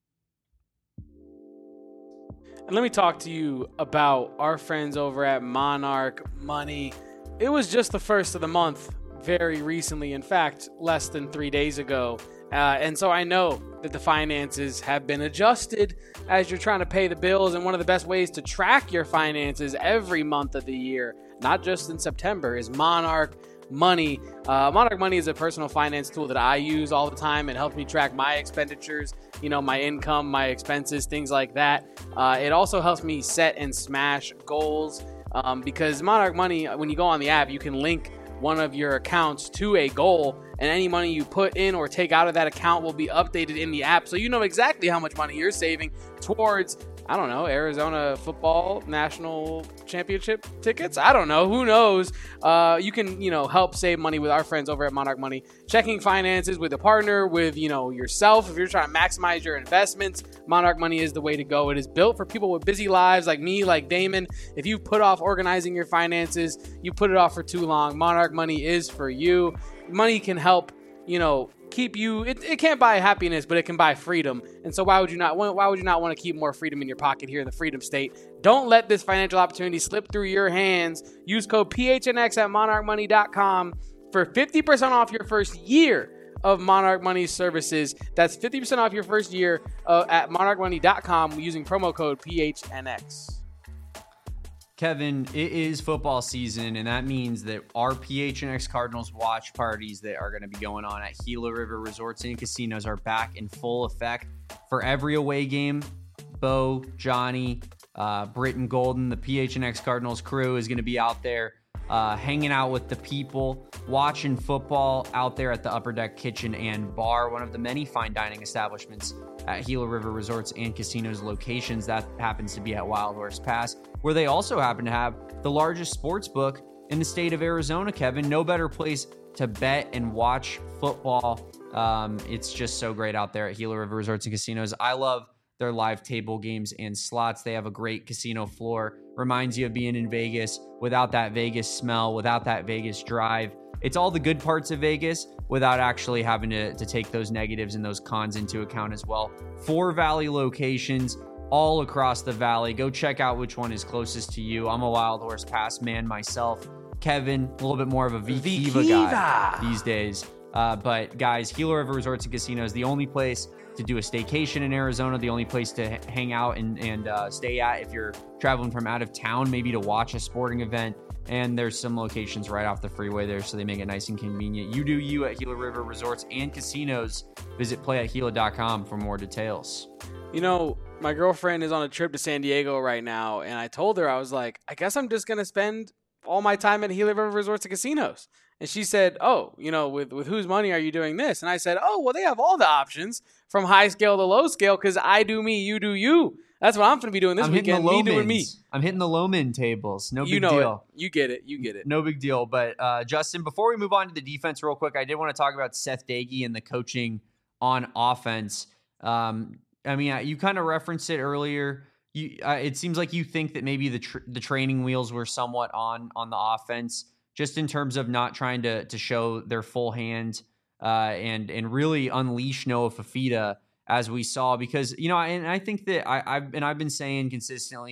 And let me talk to you about our friends over at Monarch Money. It was just the first of the month very recently, in fact, less than three days ago. Uh, and so I know that the finances have been adjusted as you're trying to pay the bills. And one of the best ways to track your finances every month of the year, not just in September, is Monarch Money. Uh, Monarch Money is a personal finance tool that I use all the time. It helps me track my expenditures, you know, my income, my expenses, things like that. Uh, it also helps me set and smash goals um, because Monarch Money, when you go on the app, you can link one of your accounts to a goal, and any money you put in or take out of that account will be updated in the app. So you know exactly how much money you're saving towards, I don't know, Arizona football national championship tickets. I don't know. Who knows? Uh, you can, you know, help save money with our friends over at Monarch Money. Checking finances with a partner, with, you know, yourself. If you're trying to maximize your investments, Monarch Money is the way to go. It is built for people with busy lives like me, like Damon. If you put off organizing your finances, you put it off for too long. Monarch Money is for you. Money can help, you know, keep you, it, it can't buy happiness, but it can buy freedom. And so why would you not why would you not want to keep more freedom in your pocket here in the Freedom State? Don't let this financial opportunity slip through your hands. Use code P H N X at monarch money dot com for fifty percent off your first year of Monarch Money services. That's fifty percent off your first year uh, at monarch money dot com using promo code P H N X. Kevin, it is football season, and that means that our P H N X Cardinals watch parties that are going to be going on at Gila River Resorts and Casinos are back in full effect. For every away game, Bo, Johnny, uh, Britton Golden, the P H N X Cardinals crew is going to be out there uh, hanging out with the people, watching football out there at the Upper Deck Kitchen and Bar, one of the many fine dining establishments at Gila River Resorts and Casinos locations. That happens to be at Wild Horse Pass, where they also happen to have the largest sports book in the state of Arizona, Kevin. No better place to bet and watch football. Um, it's just so great out there at Gila River Resorts and Casinos. I love their live table games and slots. They have a great casino floor. Reminds you of being in Vegas without that Vegas smell, without that Vegas drive. It's all the good parts of Vegas without actually having to, to take those negatives and those cons into account as well. Four Valley locations all across the Valley. Go check out which one is closest to you. I'm a Wild Horse Pass man myself. Kevin, a little bit more of a V-Kiva guy these days. Uh, but guys, Gila River Resorts and Casinos, the only place to do a staycation in Arizona, the only place to h- hang out and, and uh, stay at if you're traveling from out of town, maybe to watch a sporting event. And there's some locations right off the freeway there, so they make it nice and convenient. You do you at Gila River Resorts and Casinos. Visit play at gila dot com for more details. You know, my girlfriend is on a trip to San Diego right now, and I told her, I was like, I guess I'm just going to spend all my time at Gila River Resorts and Casinos. And she said, oh, you know, with, with whose money are you doing this? And I said, oh, well, they have all the options from high scale to low scale because I do me, you do you. That's what I'm going to be doing this I'm weekend. Me doing me. I'm hitting the low min tables. No you big know deal. It. You get it. You get it. No big deal. But uh, Justin, before we move on to the defense real quick, I did want to talk about Seth Dagey and the coaching on offense. Um, I mean, you kind of referenced it earlier. You, uh, it seems like you think that maybe the tr- the training wheels were somewhat on on the offense, just in terms of not trying to to show their full hand uh, and and really unleash Noah Fifita, as we saw, because, you know, and I think that I, I've and I've been saying consistently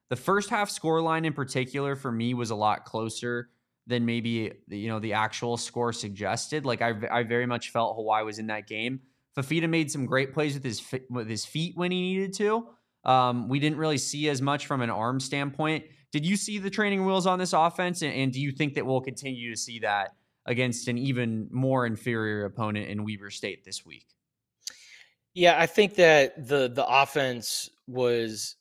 The first half scoreline in particular for me was a lot closer than maybe, you know, the actual score suggested. Like I, I very much felt Hawaii was in that game. Fafita made some great plays with his with his feet when he needed to. Um, we didn't really see as much from an arm standpoint. Did you see the training wheels on this offense? And, and do you think that we'll continue to see that against an even more inferior opponent in Weber State this week? Yeah, I think that the the offense was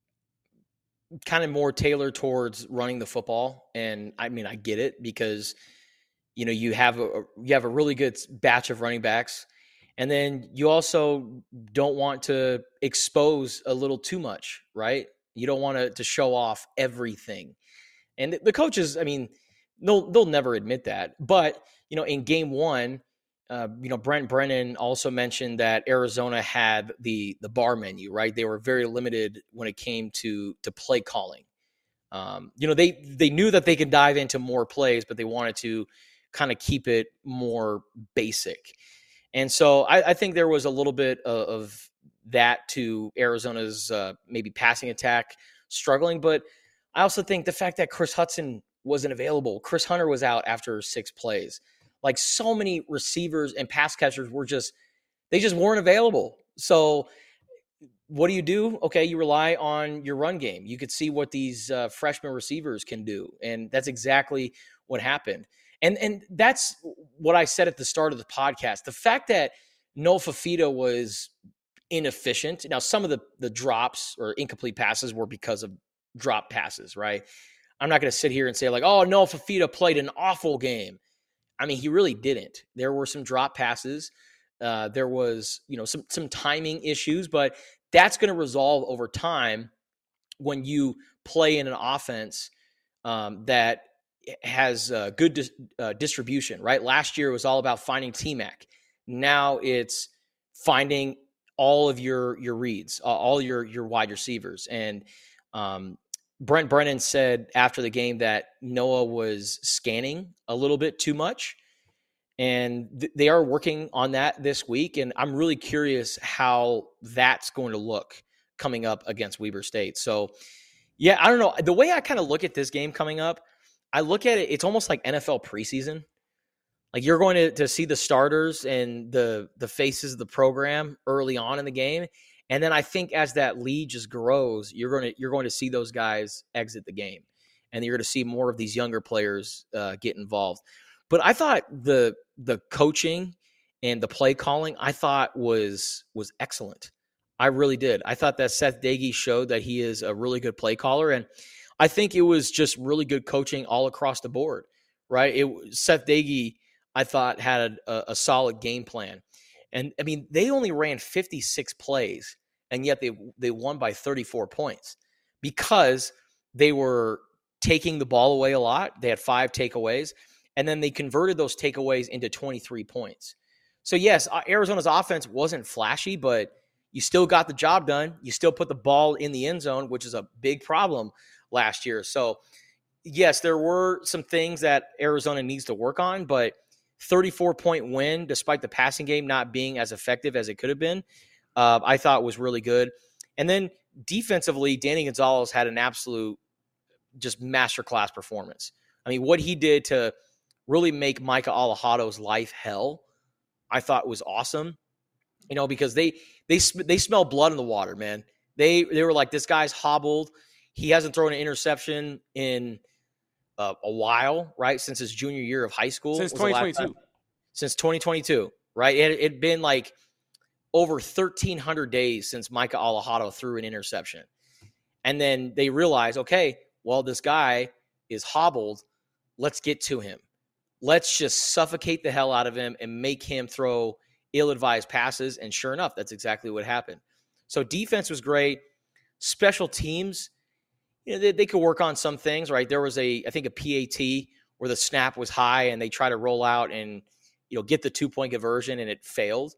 kind of more tailored towards running the football. And I mean, I get it because, you know, you have a, you have a really good batch of running backs. And then you also don't want to expose a little too much, right? You don't want to, to show off everything. And the coaches, I mean, they'll, they'll never admit that. But, you know, in game one, uh, you know, Brent Brennan also mentioned that Arizona had the the bar menu, right? They were very limited when it came to to play calling. Um, you know, they they knew that they could dive into more plays, but they wanted to kind of keep it more basic. And so I, I think there was a little bit of, of that to Arizona's uh, maybe passing attack struggling. But I also think the fact that Chris Hudson wasn't available, Chris Hunter was out after six plays. Like so many receivers and pass catchers were just, they just weren't available. So what do you do? Okay, you rely on your run game. You could see what these uh, freshman receivers can do. And that's exactly what happened. And and that's what I said at the start of the podcast. The fact that Noah Fafita was inefficient. Now, some of the, the drops or incomplete passes were because of drop passes, right? I'm not going to sit here and say like, oh, Noah Fafita played an awful game. I mean, he really didn't. There were some drop passes. Uh, there was, you know, some some timing issues, but that's going to resolve over time when you play in an offense um, that has uh, good dis- uh, distribution, right? Last year it was all about finding T-Mac. Now it's finding all of your your reads, uh, all your your wide receivers. And um, Brent Brennan said after the game that Noah was scanning a little bit too much, and th- they are working on that this week. And I'm really curious how that's going to look coming up against Weber State. So, yeah, I don't know. The way I kind of look at this game coming up, I look at it, it's almost like N F L preseason. Like you're going to, to see the starters and the the faces of the program early on in the game. And then I think as that lead just grows, you're going to you're going to see those guys exit the game, and you're going to see more of these younger players uh, get involved. But I thought the the coaching and the play calling I thought was was excellent. I really did. I thought that Seth Doege showed that he is a really good play caller, and I think it was just really good coaching all across the board. Right? It Seth Doege, I thought, had a, a solid game plan. And, I mean, they only ran fifty-six plays, and yet they they won by thirty-four points because they were taking the ball away a lot. They had five takeaways, and then they converted those takeaways into twenty-three points. So, yes, Arizona's offense wasn't flashy, but you still got the job done. You still put the ball in the end zone, which is a big problem last year. So, yes, there were some things that Arizona needs to work on, but thirty-four point win, despite the passing game not being as effective as it could have been, uh, I thought was really good. And then defensively, Danny Gonzalez had an absolute just masterclass performance. I mean, what he did to really make Micah Alajado's life hell, I thought was awesome. You know, because they they they smell blood in the water, man. They they were like, this guy's hobbled. He hasn't thrown an interception in Uh, a while, right? Since his junior year of high school. Since twenty twenty-two. Since twenty twenty-two, right? It had been like over thirteen hundred days since Micah Alajado threw an interception. And then they realized, okay, well, this guy is hobbled. Let's get to him. Let's just suffocate the hell out of him and make him throw ill-advised passes. And sure enough, that's exactly what happened. So defense was great. Special teams, you know, they, they could work on some things, right? There was a, I think a P A T where the snap was high and they try to roll out and, you know, get the two point conversion and it failed.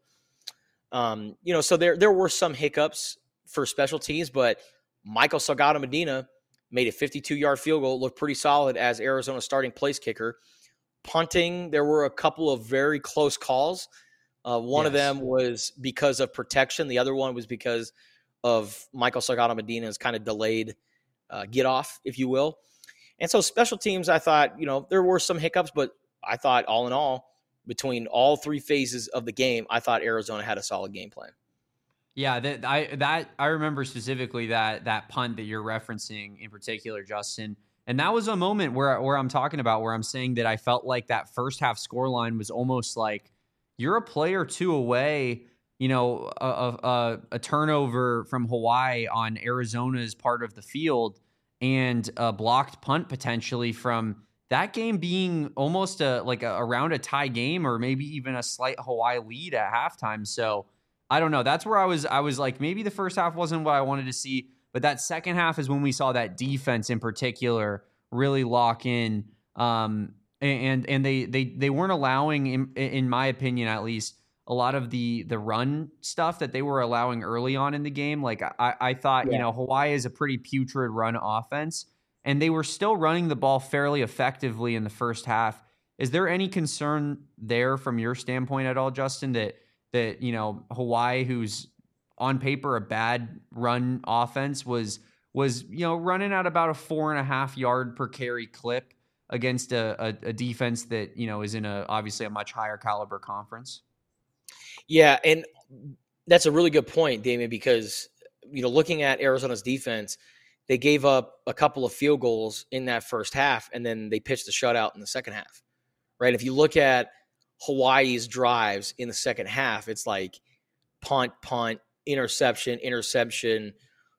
Um, you know, so there, there were some hiccups for special teams, but Michael Salgado Medina made a fifty-two yard field goal, looked pretty solid as Arizona's starting place kicker. Punting, there were a couple of very close calls. Uh, one yes. of them was because of protection. The other one was because of Michael Salgado Medina's kind of delayed uh, get off, if you will. And so special teams, I thought, you know, there were some hiccups, but I thought all in all, between all three phases of the game, I thought Arizona had a solid game plan. Yeah, that I that I remember specifically that that punt that you're referencing in particular, Justin. And that was a moment where where I'm talking about where I'm saying that I felt like that first half scoreline was almost like you're a play or two away, you know, a, a, a turnover from Hawaii on Arizona's part of the field and a blocked punt potentially from that game being almost a like a, around a tie game or maybe even a slight Hawaii lead at halftime. So I don't know. That's where I was. I was like, maybe the first half wasn't what I wanted to see, but that second half is when we saw that defense in particular really lock in. Um, and and they they they weren't allowing, in, in my opinion, at least, a lot of the the run stuff that they were allowing early on in the game. Like I I thought, yeah. you know, Hawaii is a pretty putrid run offense, and they were still running the ball fairly effectively in the first half. Is there any concern there from your standpoint at all, Justin, that that, you know, Hawaii, who's on paper a bad run offense, was, was you know, running at about a four and a half yard per carry clip against a, a, a defense that, you know, is in a obviously a much higher caliber conference? Yeah, and that's a really good point, Damien, because, you know, looking at Arizona's defense, they gave up a couple of field goals in that first half, and then they pitched the shutout in the second half, right? If you look at Hawaii's drives in the second half, it's like punt, punt, interception, interception,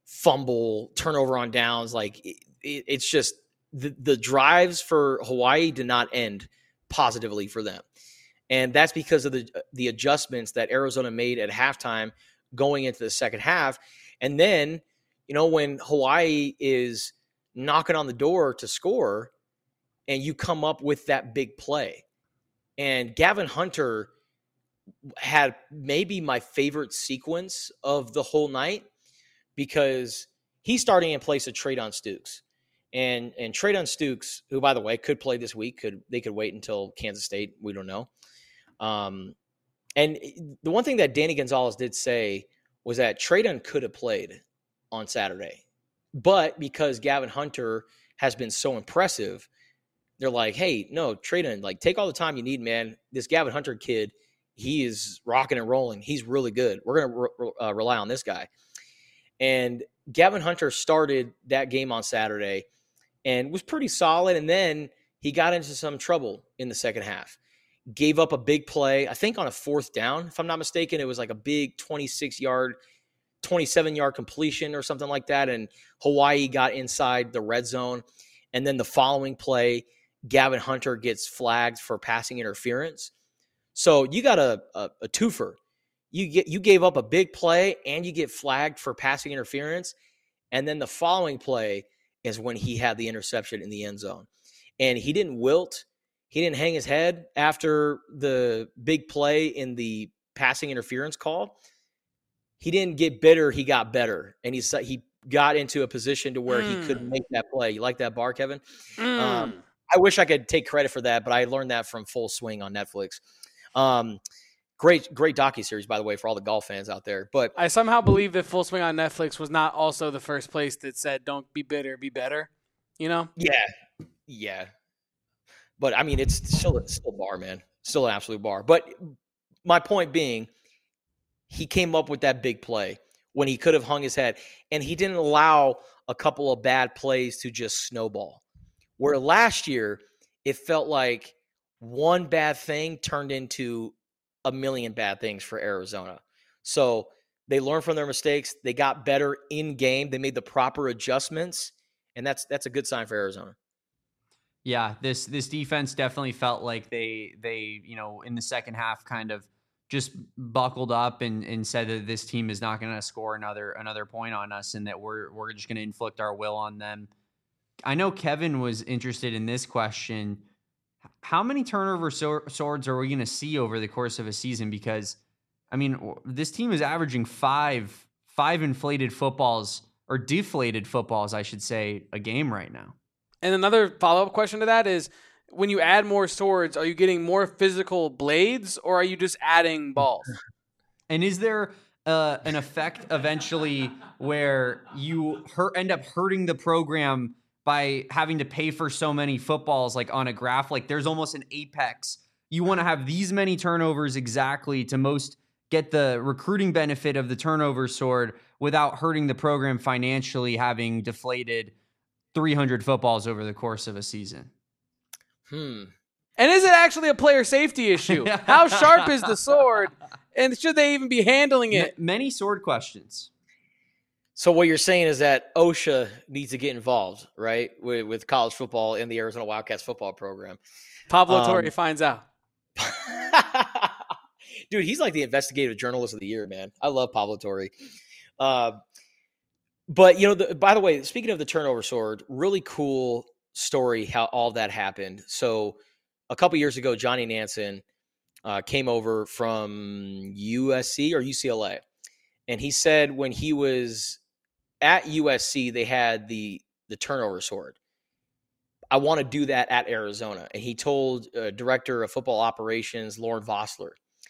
fumble, turnover on downs. Like it, it, it's just the, the drives for Hawaii did not end positively for them. And that's because of the the adjustments that Arizona made at halftime going into the second half. And then, you know, when Hawaii is knocking on the door to score and you come up with that big play, and Gavin Hunter had maybe my favorite sequence of the whole night because he's starting in place of Treydon Stukes. And and Treydon Stukes, who, by the way, could play this week, could they could wait until Kansas State. We don't know. Um, and the one thing that Danny Gonzalez did say was that Treydon could have played on Saturday. But because Gavin Hunter has been so impressive, they're like, hey, no, Treydon, like, take all the time you need, man. This Gavin Hunter kid, he is rocking and rolling. He's really good. We're going to re- uh, rely on this guy. And Gavin Hunter started that game on Saturday and was pretty solid. And then he got into some trouble in the second half. Gave up a big play, I think on a fourth down, if I'm not mistaken. It was like a big twenty-six yard, twenty-seven yard completion or something like that. And Hawaii got inside the red zone. And then the following play, Gavin Hunter gets flagged for passing interference. So you got a, a, a twofer. You get you gave up a big play and you get flagged for passing interference. And then the following play is when he had the interception in the end zone. And he didn't wilt. He didn't hang his head after the big play in the passing interference call. He didn't get bitter. He got better. And he he got into a position to where mm. he could make that play. You like that bar, Kevin? Mm. Um, I wish I could take credit for that, but I learned that from Full Swing on Netflix. Um, great, great docuseries, by the way, for all the golf fans out there. But I somehow believe that Full Swing on Netflix was not also the first place that said, don't be bitter, be better. You know? Yeah. Yeah. But, I mean, it's still, it's still a bar, man. Still an absolute bar. But my point being, he came up with that big play when he could have hung his head. And he didn't allow a couple of bad plays to just snowball. Where last year, it felt like one bad thing turned into a million bad things for Arizona. So they learned from their mistakes. They got better in game. They made the proper adjustments. And that's that's a good sign for Arizona. Yeah, this this defense definitely felt like they they you know in the second half kind of just buckled up and, and said that this team is not going to score another another point on us and that we're we're just going to inflict our will on them. I know Kevin was interested in this question. How many turnover so- swords are we going to see over the course of a season? Because I mean, this team is averaging five five inflated footballs or deflated footballs, I should say, a game right now. And another follow-up question to that is, when you add more swords, are you getting more physical blades or are you just adding balls? And is there uh, an effect eventually where you hurt, end up hurting the program by having to pay for so many footballs, like on a graph. Like there's almost an apex. You want to have these many turnovers exactly to most get the recruiting benefit of the turnover sword without hurting the program financially, having deflated three hundred footballs over the course of a season. Hmm. And is it actually a player safety issue? How sharp is the sword? And should they even be handling it? M- many sword questions. So what you're saying is that OSHA needs to get involved, right, with, with college football in the Arizona Wildcats football program. Pablo Um, Torre finds out. Dude, he's like the investigative journalist of the year, man. I love Pablo Torre. Uh, but, you know, the, by the way, speaking of the turnover sword, really cool story how all that happened. So a couple years ago, Johnny Nansen uh, came over from U S C or U C L A. And he said when he was at U S C, they had the the turnover sword. I want to do that at Arizona. And he told uh, director of football operations, Lauren Vossler.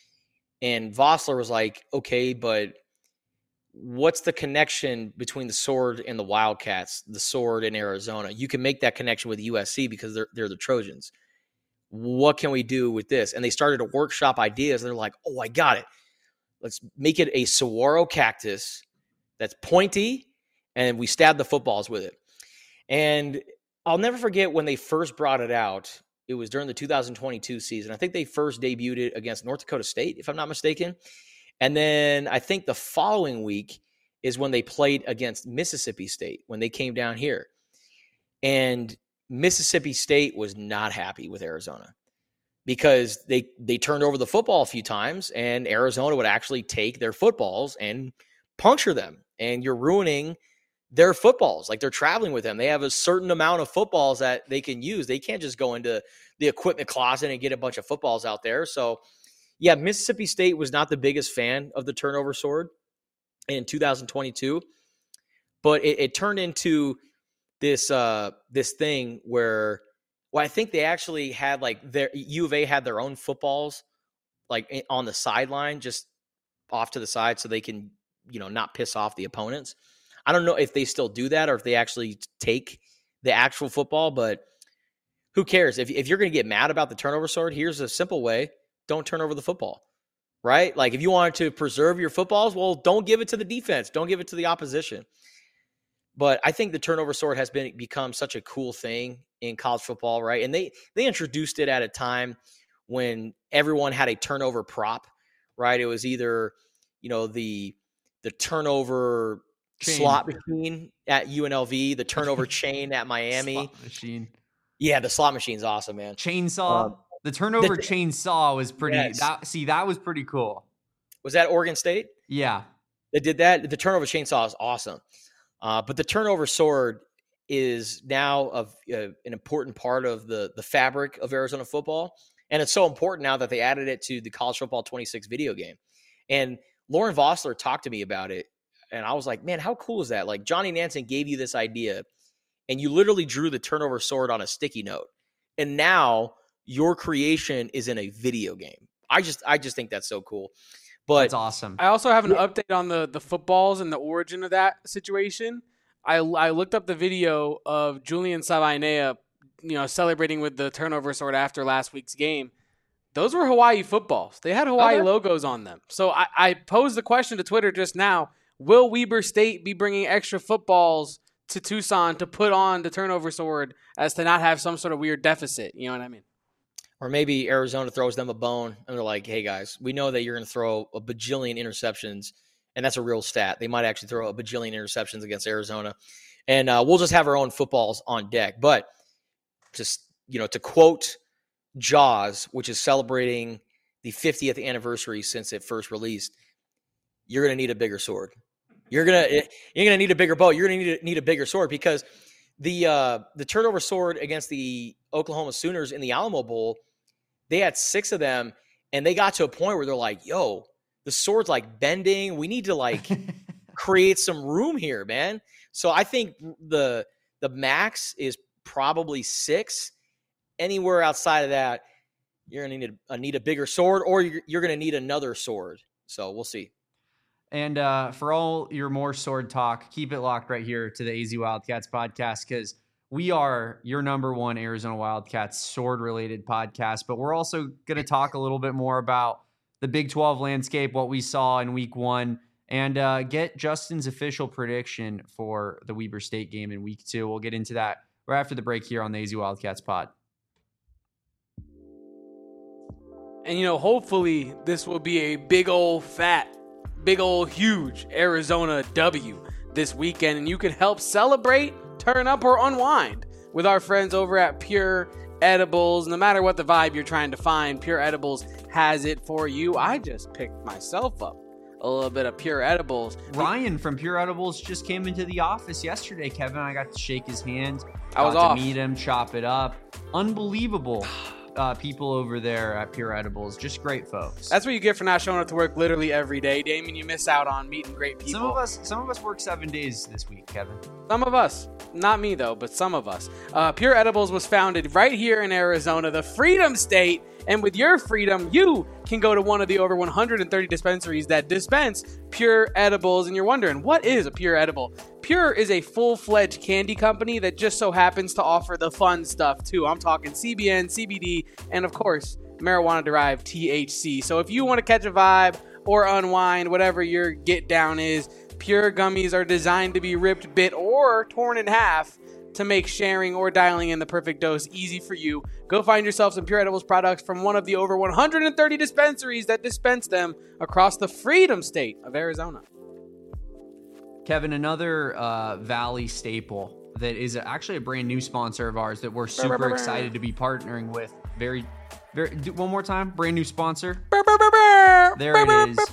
And Vossler was like, okay, but what's the connection between the sword and the Wildcats, the sword in Arizona? You can make that connection with U S C because they're, they're the Trojans. What can we do with this? And they started to workshop ideas. And they're like, oh, I got it. Let's make it a saguaro cactus that's pointy, and we stab the footballs with it. And I'll never forget when they first brought it out. It was during the two thousand twenty-two season. I think they first debuted it against North Dakota State, if I'm not mistaken. And then I think the following week is when they played against Mississippi State, when they came down here. And Mississippi State was not happy with Arizona because they they turned over the football a few times, and Arizona would actually take their footballs and puncture them. And you're ruining their footballs. Like, they're traveling with them. They have a certain amount of footballs that they can use. They can't just go into the equipment closet and get a bunch of footballs out there. So, yeah, Mississippi State was not the biggest fan of the turnover sword in two thousand twenty-two, but it, it turned into this uh, this thing where, well, I think they actually had like their U of A had their own footballs like on the sideline, just off to the side, so they can, you know, not piss off the opponents. I don't know if they still do that or if they actually take the actual football, but who cares? If if you're going to get mad about the turnover sword, here's a simple way: don't turn over the football, right? Like, if you wanted to preserve your footballs, well, don't give it to the defense, don't give it to the opposition. But I think the turnover sword has been become such a cool thing in college football, right? And they they introduced it at a time when everyone had a turnover prop, right? It was either, you know, the the turnover chain. Slot machine at U N L V, the turnover chain at Miami. Slot machine. Yeah, the slot machine's awesome, man. Chainsaw. Um, the turnover the, chainsaw was pretty. Yes. That, see, that was pretty cool. Was that Oregon State? Yeah, they did that. The turnover chainsaw is awesome. Uh, but the turnover sword is now of uh, an important part of the the fabric of Arizona football, and it's so important now that they added it to the College Football twenty-six video game. And Lauren Vossler talked to me about it, and I was like, man, how cool is that? Like, Johnny Nansen gave you this idea, and you literally drew the turnover sword on a sticky note, and now your creation is in a video game. I just I just think that's so cool. But that's awesome. I also have an update on the, the footballs and the origin of that situation. I, I looked up the video of Julian Sabainea, you know, celebrating with the turnover sword after last week's game. Those were Hawaii footballs. They had Hawaii okay. logos on them. So I, I posed the question to Twitter just now, will Weber State be bringing extra footballs to Tucson to put on the turnover sword as to not have some sort of weird deficit? You know what I mean? Or maybe Arizona throws them a bone and they're like, hey, guys, we know that you're going to throw a bajillion interceptions, and that's a real stat. They might actually throw a bajillion interceptions against Arizona, and uh, we'll just have our own footballs on deck. But just, you know, to quote Jaws, which is celebrating the fiftieth anniversary since it first released, you're going to need a bigger sword. You're going to you're going to need a bigger bow. You're going to need, need a bigger sword because the uh, the turnover sword against the Oklahoma Sooners in the Alamo Bowl, they had six of them, and they got to a point where they're like, yo, the sword's like bending. We need to like create some room here, man. So I think the the max is probably six. Anywhere outside of that, you're going to need a, need a bigger sword, or you're, you're going to need another sword. So we'll see. And uh, for all your more sword talk, keep it locked right here to the A Z Wildcats podcast, because we are your number one Arizona Wildcats sword-related podcast. But we're also going to talk a little bit more about the Big twelve landscape, what we saw in week one, and uh, get Justin's official prediction for the Weber State game in week two. We'll get into that right after the break here on the A Z Wildcats pod. And, you know, hopefully this will be a big old fat, big old huge Arizona W this weekend, and you can help celebrate, turn up, or unwind with our friends over at Pure Edibles. No matter what the vibe you're trying to find, Pure Edibles has it for you. I just picked myself up a little bit of Pure Edibles. Ryan from Pure Edibles just came into the office yesterday, Kevin. I got to shake his hand. I was got off. to meet him, chop it up. Unbelievable. Uh, people over there at Pure Edibles, just great folks. That's what you get for not showing up to work literally every day, Damon. You miss out on meeting great people. Some of us, some of us work seven days this week, Kevin. Some of us, not me though, but some of us. Uh, Pure Edibles was founded right here in Arizona, the Freedom State, and with your freedom, you can go to one of the over one hundred thirty dispensaries that dispense Pure Edibles. And you're wondering, what is a Pure Edible? Pure is a full-fledged candy company that just so happens to offer the fun stuff too. I'm talking C B N, C B D, and of course, marijuana-derived T H C. So if you want to catch a vibe or unwind, whatever your get down is, Pure gummies are designed to be ripped, bit, or torn in half to make sharing or dialing in the perfect dose easy for you. Go find yourself some Pure Edibles products from one of the over one hundred thirty dispensaries that dispense them across the Freedom State of Arizona. Kevin, another uh, Valley staple that is actually a brand new sponsor of ours that we're super excited to be partnering with. Very, very. Do, one more time, brand new sponsor. There it is.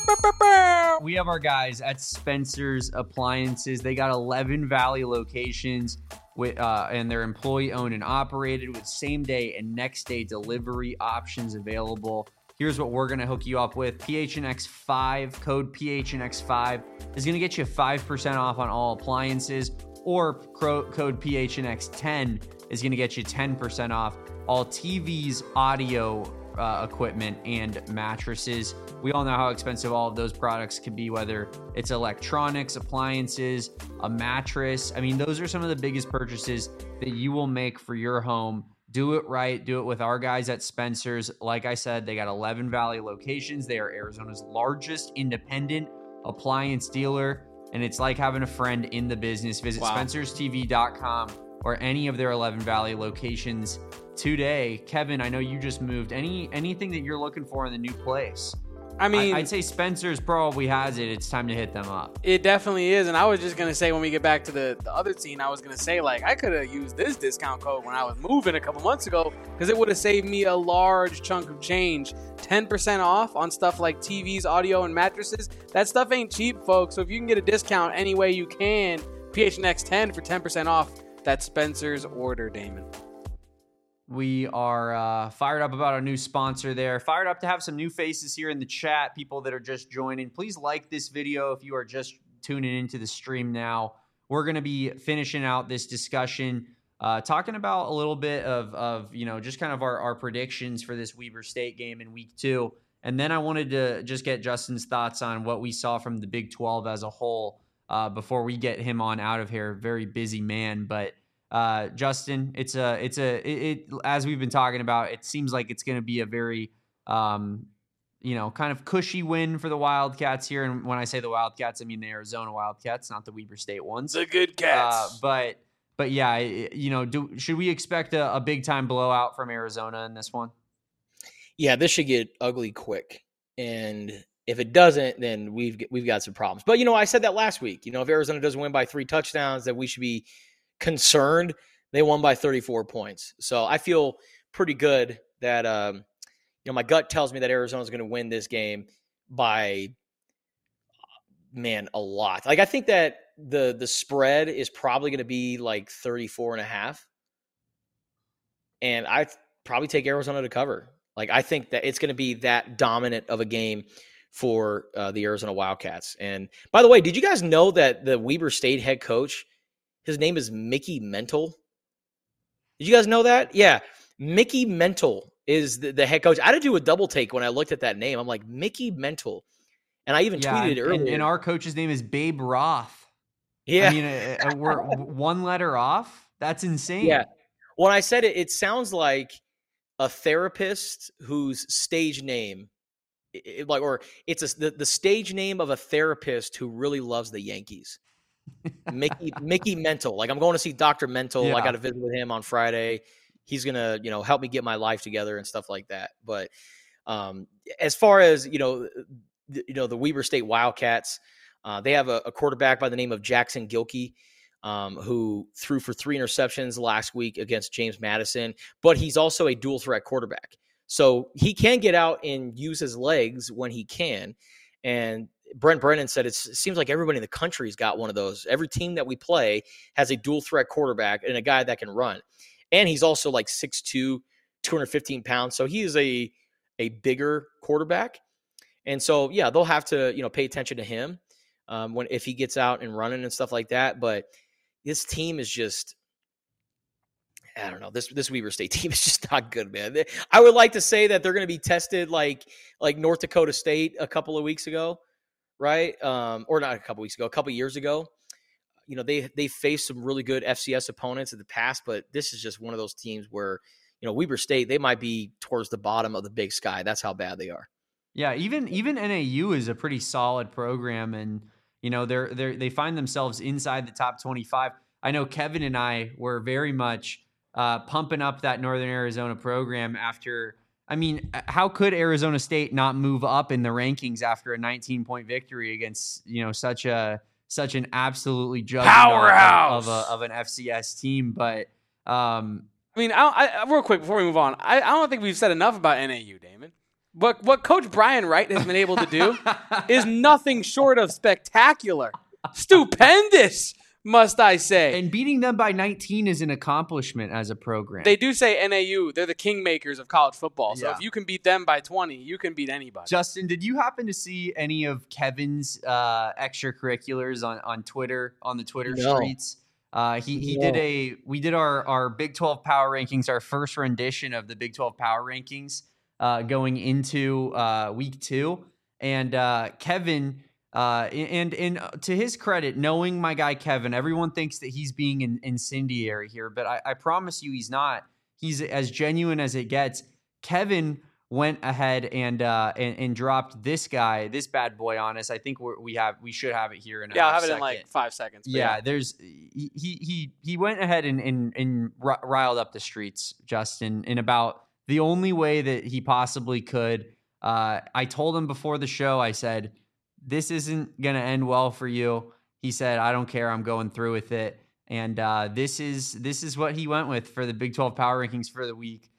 We have our guys at Spencer's Appliances. They got eleven Valley locations, with, uh, and they're employee owned and operated with same day and next day delivery options available. Here's what we're going to hook you up with. P H N X five, code P H N X five is going to get you five percent off on all appliances, or cro- code P H N X ten is going to get you ten percent off all T Vs, audio uh, equipment, and mattresses. We all know how expensive all of those products can be, whether it's electronics, appliances, a mattress. I mean, those are some of the biggest purchases that you will make for your home. Do it right. Do it with our guys at Spencer's. Like I said, they got eleven Valley locations. They are Arizona's largest independent appliance dealer, and it's like having a friend in the business. Visit Wow. spencers T V dot com or any of their eleven Valley locations today. Kevin, I know you just moved. Any anything that you're looking for in the new place? I mean, I, I'd say Spencer's probably has it. It's time to hit them up. it definitely is. And I was just going to say, when we get back to the, the other scene, I was going to say, like, I could have used this discount code when I was moving a couple months ago, because it would have saved me a large chunk of change. ten percent off on stuff like T Vs, audio, and mattresses. That stuff ain't cheap, folks. So if you can get a discount any way you can, P H N X ten for ten percent off. That's Spencer's order, Damon. We are uh, fired up about our new sponsor there. Fired up to have some new faces here in the chat, people that are just joining. Please like this video if you are just tuning into the stream now. We're going to be finishing out this discussion, uh, talking about a little bit of, of you know, just kind of our, our predictions for this Weber State game in week two. And then I wanted to just get Justin's thoughts on what we saw from the Big twelve as a whole uh, before we get him on out of here. Very busy man, but Uh, Justin, it's a, it's a, it, it, as we've been talking about, it seems like it's going to be a very, um, you know, kind of cushy win for the Wildcats here. And when I say the Wildcats, I mean the Arizona Wildcats, not the Weber State ones. The good cats. Uh, but, but yeah, it, you know, do, should we expect a, a big time blowout from Arizona in this one? Yeah, this should get ugly quick. And if it doesn't, then we've, we've got some problems. But, you know, I said that last week, you know, if Arizona doesn't win by three touchdowns, that we should be concerned. They won by thirty-four points. So I feel pretty good that, um, you know, my gut tells me that Arizona's going to win this game by, man, a lot. Like, I think that the, the spread is probably going to be like thirty-four and a half. And I probably take Arizona to cover. Like, I think that it's going to be that dominant of a game for uh, the Arizona Wildcats. And by the way, did you guys know that the Weber State head coach, his name is Mickey Mental? Did you guys know that? Yeah. Mickey Mental is the, the head coach. I had to do a double take when I looked at that name. I'm like, Mickey Mental. And I even Yeah, tweeted and, it earlier. and, and our coach's name is Babe Roth. Yeah. I mean, uh, uh, we're one letter off. That's insane. Yeah. When I said it, it sounds like a therapist whose stage name, it, like, or it's a, the, the stage name of a therapist who really loves the Yankees. Mickey Mickey Mental. Like, I'm going to see Doctor Mental. Yeah. I got to visit with him on Friday. He's gonna, you know, help me get my life together and stuff like that. But um, as far as you know, the, you know, the Weber State Wildcats, uh, they have a, a quarterback by the name of Jackson Gilkey, um, who threw for three interceptions last week against James Madison. But he's also a dual threat quarterback, so he can get out and use his legs when he can. And Brent Brennan said it's, it seems like everybody in the country's got one of those. Every team that we play has a dual threat quarterback and a guy that can run. And he's also like six two, two hundred fifteen pounds. So he is a, a bigger quarterback. And so, yeah, they'll have to, you know, pay attention to him um, when, if he gets out and running and stuff like that. But this team is just, I don't know. This this Weber State team is just not good, man. They, I would like to say that they're going to be tested like like North Dakota State a couple of weeks ago, right? Um, or not a couple weeks ago, a couple years ago. You know, they they faced some really good F C S opponents in the past, but this is just one of those teams where, you know, Weber State, they might be towards the bottom of the Big Sky. That's how bad they are. Yeah, even even N A U is a pretty solid program, and you know they're they they find themselves inside the top twenty-five. I know Kevin and I were very much uh, pumping up that Northern Arizona program after. I mean, how could Arizona State not move up in the rankings after a nineteen point victory against, you know, such a such an absolutely juggernaut Powerhouse of, of a of an F C S team? But um, I mean, I, I, real quick before we move on, I, I don't think we've said enough about N A U, Damon. But what Coach Brian Wright has been able to do is nothing short of spectacular, stupendous, must I say. And beating them by nineteen is an accomplishment as a program. They do say N A U, they're the kingmakers of college football. So Yeah. if you can beat them by twenty, you can beat anybody. Justin, did you happen to see any of Kevin's uh, extracurriculars on, on Twitter, on the Twitter No. streets? Uh, he he No. did a we did our our Big twelve Power Rankings, our first rendition of the Big twelve Power Rankings uh, going into uh, week two, and uh, Kevin. Uh, and and to his credit, knowing my guy Kevin, everyone thinks that he's being in, incendiary here, but I, I promise you he's not. He's as genuine as it gets. Kevin went ahead and uh, and, and dropped this guy, this bad boy on us. I think we're, we have we should have it here in a yeah, I'll have it second. in like five seconds. but Yeah, there's he he he went ahead and and, and ri- riled up the streets, Justin, in about the only way that he possibly could. Uh, I told him before the show, I said, this isn't going to end well for you. He said, I don't care. I'm going through with it. And uh, this is this is what he went with for the Big twelve Power Rankings for the week.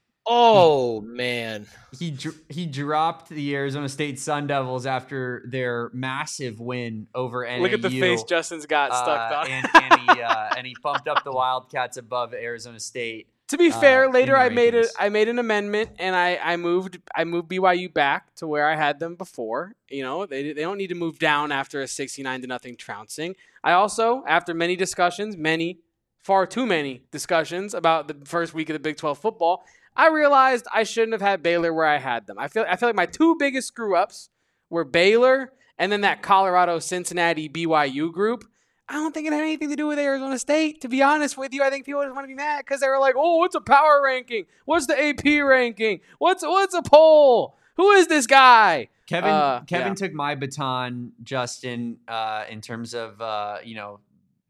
Oh, man. He dr- he dropped the Arizona State Sun Devils after their massive win over N A U. Look at the face Justin's got stuck uh, on. and, and he uh, and he bumped up the Wildcats above Arizona State. To be uh, fair, later in the I made it. rankings. I made an amendment, and I, I moved I moved B Y U back to where I had them before. You know, they they don't need to move down after a sixty-nine to nothing trouncing. I also, after many discussions, many far too many discussions about the first week of the Big twelve football, I realized I shouldn't have had Baylor where I had them. I feel I feel like my two biggest screw ups were Baylor and then that Colorado Cincinnati B Y U group. I don't think it had anything to do with Arizona State, to be honest with you. I think people just want to be mad because they were like, oh, what's a power ranking? What's the A P ranking? What's what's a poll? Who is this guy? Kevin Uh, Kevin yeah. took my baton, Justin, uh, in terms of uh, you know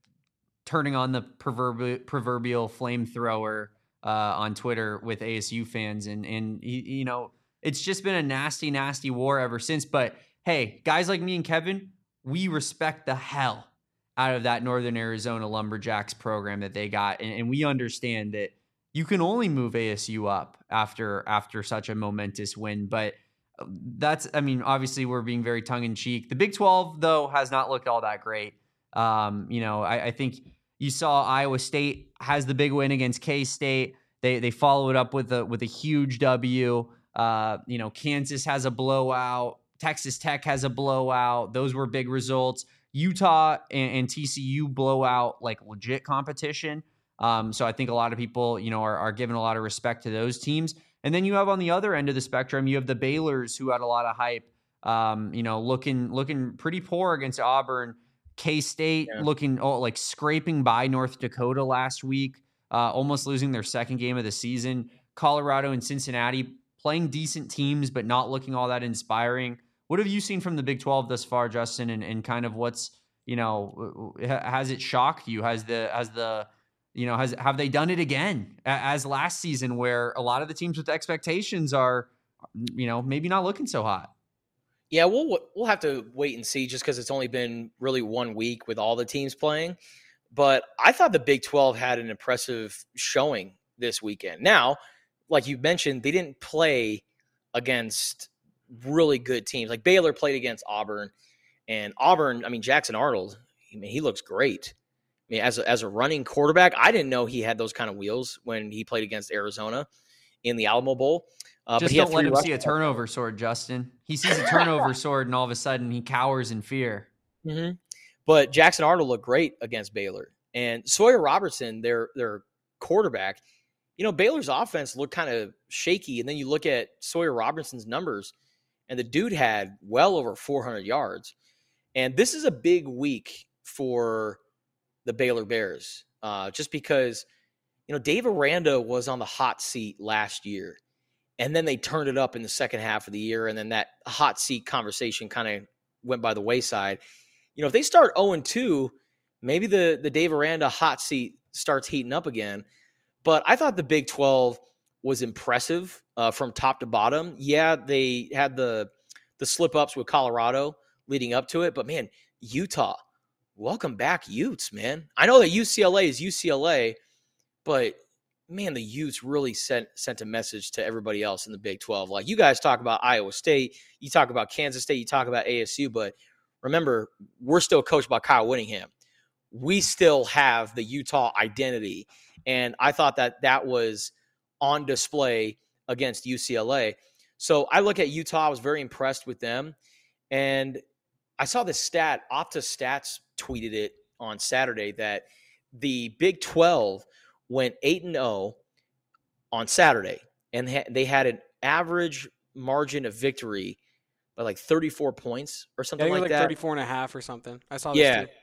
turning on the proverbial proverbial flamethrower uh, on Twitter with A S U fans, and and he, you know it's just been a nasty, nasty war ever since. But hey, guys like me and Kevin, we respect the hell out of that Northern Arizona Lumberjacks program that they got, and, and we understand that you can only move A S U up after after such a momentous win, but. That's, I mean, obviously we're being very tongue in cheek. The Big twelve, though, has not looked all that great. Um, you know, I, I think you saw Iowa State has the big win against K-State. They they follow it up with a with a huge W. Uh, you know, Kansas has a blowout. Texas Tech has a blowout. Those were big results. Utah and, and T C U blow out like legit competition. Um, so I think a lot of people, you know, are, are giving a lot of respect to those teams. And then you have on the other end of the spectrum, you have the Baylors who had a lot of hype um, you know, looking looking pretty poor against Auburn. K-State Yeah. looking oh, like scraping by North Dakota last week, uh, almost losing their second game of the season. Colorado and Cincinnati playing decent teams, but not looking all that inspiring. What have you seen from the Big twelve thus far, Justin, and, and kind of what's, you know, has it shocked you? Has the, has the, you know, has, have they done it again as last season where a lot of the teams with expectations are, you know, maybe not looking so hot? Yeah, we'll we'll have to wait and see just because it's only been really one week with all the teams playing. But I thought the Big twelve had an impressive showing this weekend. Now, like you mentioned, they didn't play against really good teams. Like Baylor played against Auburn, and Auburn, I mean, Jackson Arnold, I mean, he looks great. I mean, as a, as a running quarterback, I didn't know he had those kind of wheels when he played against Arizona in the Alamo Bowl. Uh, Just but don't let him see a turnover sword, Justin. He sees a turnover sword, and all of a sudden he cowers in fear. Mm-hmm. But Jackson Arnold looked great against Baylor. And Sawyer Robertson, their their quarterback, you know, Baylor's offense looked kind of shaky. And then you look at Sawyer Robertson's numbers, and the dude had well over four hundred yards. And this is a big week for the Baylor Bears, uh, just because, you know, Dave Aranda was on the hot seat last year. And then they turned it up in the second half of the year, and then that hot seat conversation kind of went by the wayside. You know, if they start oh and two, maybe the, the Dave Aranda hot seat starts heating up again. But I thought the Big twelve was impressive uh, from top to bottom. Yeah, they had the the slip-ups with Colorado leading up to it, but, man, Utah, welcome back, Utes, man. I know that U C L A is U C L A, but – man, the Utes really sent sent a message to everybody else in the Big twelve. Like, you guys talk about Iowa State, you talk about Kansas State, you talk about A S U, but remember, we're still coached by Kyle Whittingham. We still have the Utah identity, and I thought that that was on display against U C L A. So I look at Utah, I was very impressed with them, and I saw this stat, Opta Stats tweeted it on Saturday, that the Big twelve – went eight and oh on Saturday, and they had an average margin of victory by like thirty-four points or something yeah, like, like that. thirty-four and a half or something. I saw this yeah. too.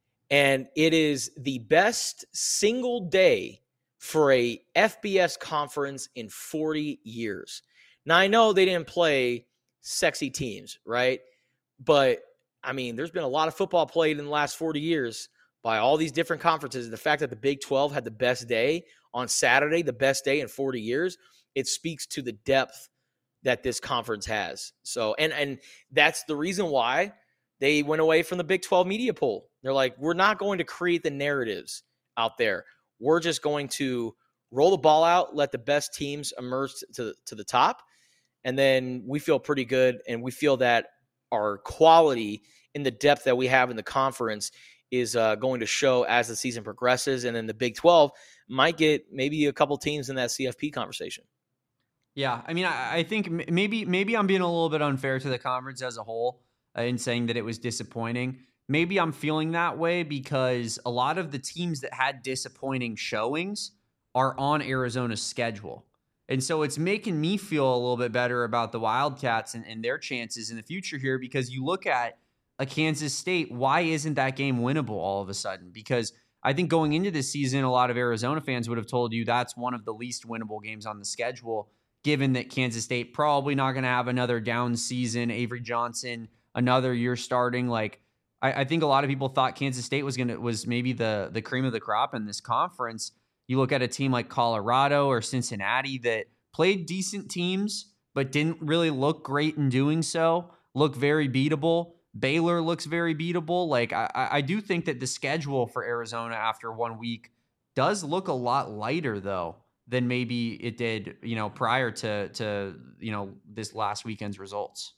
And it is the best single day for a F B S conference in forty years. Now, I know they didn't play sexy teams, right? But, I mean, there's been a lot of football played in the last forty years by all these different conferences. The fact that the Big twelve had the best day on Saturday, the best day in forty years, it speaks to the depth that this conference has. So, and and that's the reason why they went away from the Big twelve media poll. They're like, we're not going to create the narratives out there. We're just going to roll the ball out, let the best teams emerge to, to the top, and then we feel pretty good, and we feel that our quality in the depth that we have in the conference is uh, going to show as the season progresses, and then the Big twelve might get maybe a couple teams in that C F P conversation. Yeah, I mean, I, I think maybe maybe I'm being a little bit unfair to the conference as a whole uh, in saying that it was disappointing. Maybe I'm feeling that way because a lot of the teams that had disappointing showings are on Arizona's schedule. And so it's making me feel a little bit better about the Wildcats and, and their chances in the future here, because you look at a Kansas State, why isn't that game winnable all of a sudden? Because I think going into this season, a lot of Arizona fans would have told you that's one of the least winnable games on the schedule, given that Kansas State probably not going to have another down season. Avery Johnson, another year starting. Like, I, I think a lot of people thought Kansas State was going to was maybe the the cream of the crop in this conference. You look at a team like Colorado or Cincinnati that played decent teams, but didn't really look great in doing so, look very beatable. Baylor looks very beatable. Like, I, I do think that the schedule for Arizona after one week does look a lot lighter, though, than maybe it did, you know, prior to, to you know, this last weekend's results.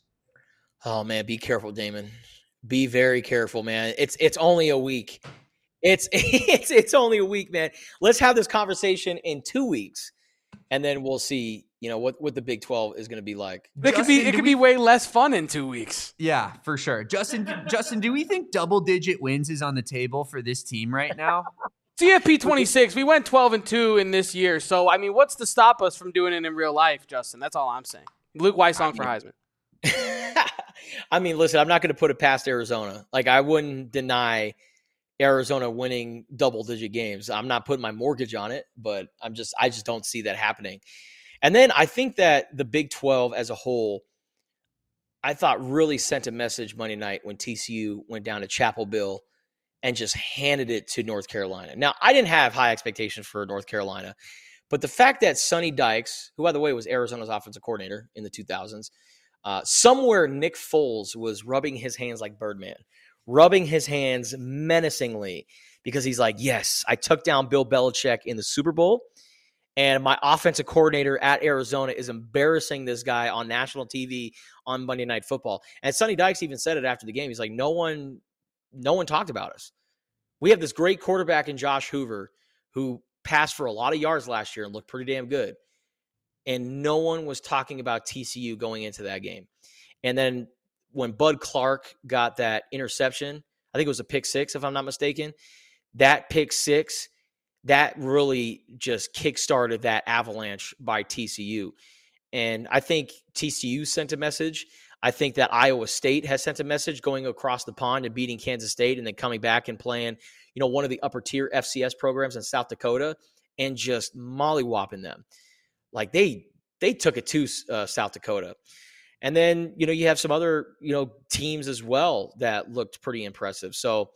Oh, man, be careful, Damon. Be very careful, man. It's it's only a week. It's it's it's only a week, man. Let's have this conversation in two weeks, and then we'll see, you know, what, what the Big twelve is going to be like. It could be it could be way less fun in two weeks. Yeah, for sure. Justin, Justin, do we think double digit wins is on the table for this team right now? C F P twenty-six, we went twelve and two in this year. So, I mean, what's to stop us from doing it in real life, Justin? That's all I'm saying. Luke Weissong for Heisman. I mean, listen, I'm not going to put it past Arizona. Like, I wouldn't deny Arizona winning double-digit games. I'm not putting my mortgage on it, but I'm just, I just don't see that happening. And then I think that the Big twelve as a whole, I thought really sent a message Monday night when T C U went down to Chapel Hill and just handed it to North Carolina. Now, I didn't have high expectations for North Carolina, but the fact that Sonny Dykes, who, by the way, was Arizona's offensive coordinator in the two thousands, uh, somewhere Nick Foles was rubbing his hands like Birdman, rubbing his hands menacingly because he's like, yes, I took down Bill Belichick in the Super Bowl, and my offensive coordinator at Arizona is embarrassing this guy on national T V on Monday Night Football. And Sonny Dykes even said it after the game. He's like, no one, no one talked about us. We have this great quarterback in Josh Hoover who passed for a lot of yards last year and looked pretty damn good. And no one was talking about T C U going into that game. And then when Bud Clark got that interception, I think it was a pick six, if I'm not mistaken, that pick six, that really just kickstarted that avalanche by T C U. And I think T C U sent a message. I think that Iowa State has sent a message going across the pond and beating Kansas State and then coming back and playing, you know, one of the upper tier F C S programs in South Dakota and just mollywhopping them. Like they they took it to uh, South Dakota. And then, you know, you have some other, you know, teams as well that looked pretty impressive. So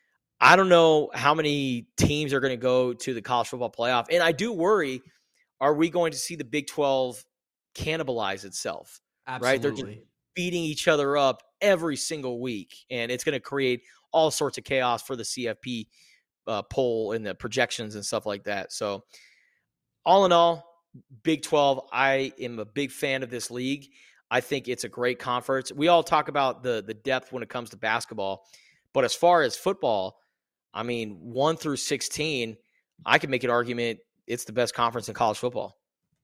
I don't know how many teams are going to go to the college football playoff. And I do worry, are we going to see the Big twelve cannibalize itself? Absolutely. Right? They're just beating each other up every single week. And it's going to create all sorts of chaos for the C F P uh, poll and the projections and stuff like that. So all in all, Big twelve, I am a big fan of this league. I think it's a great conference. We all talk about the the depth when it comes to basketball. But as far as football, I mean, one through sixteen, I could make an argument it's the best conference in college football.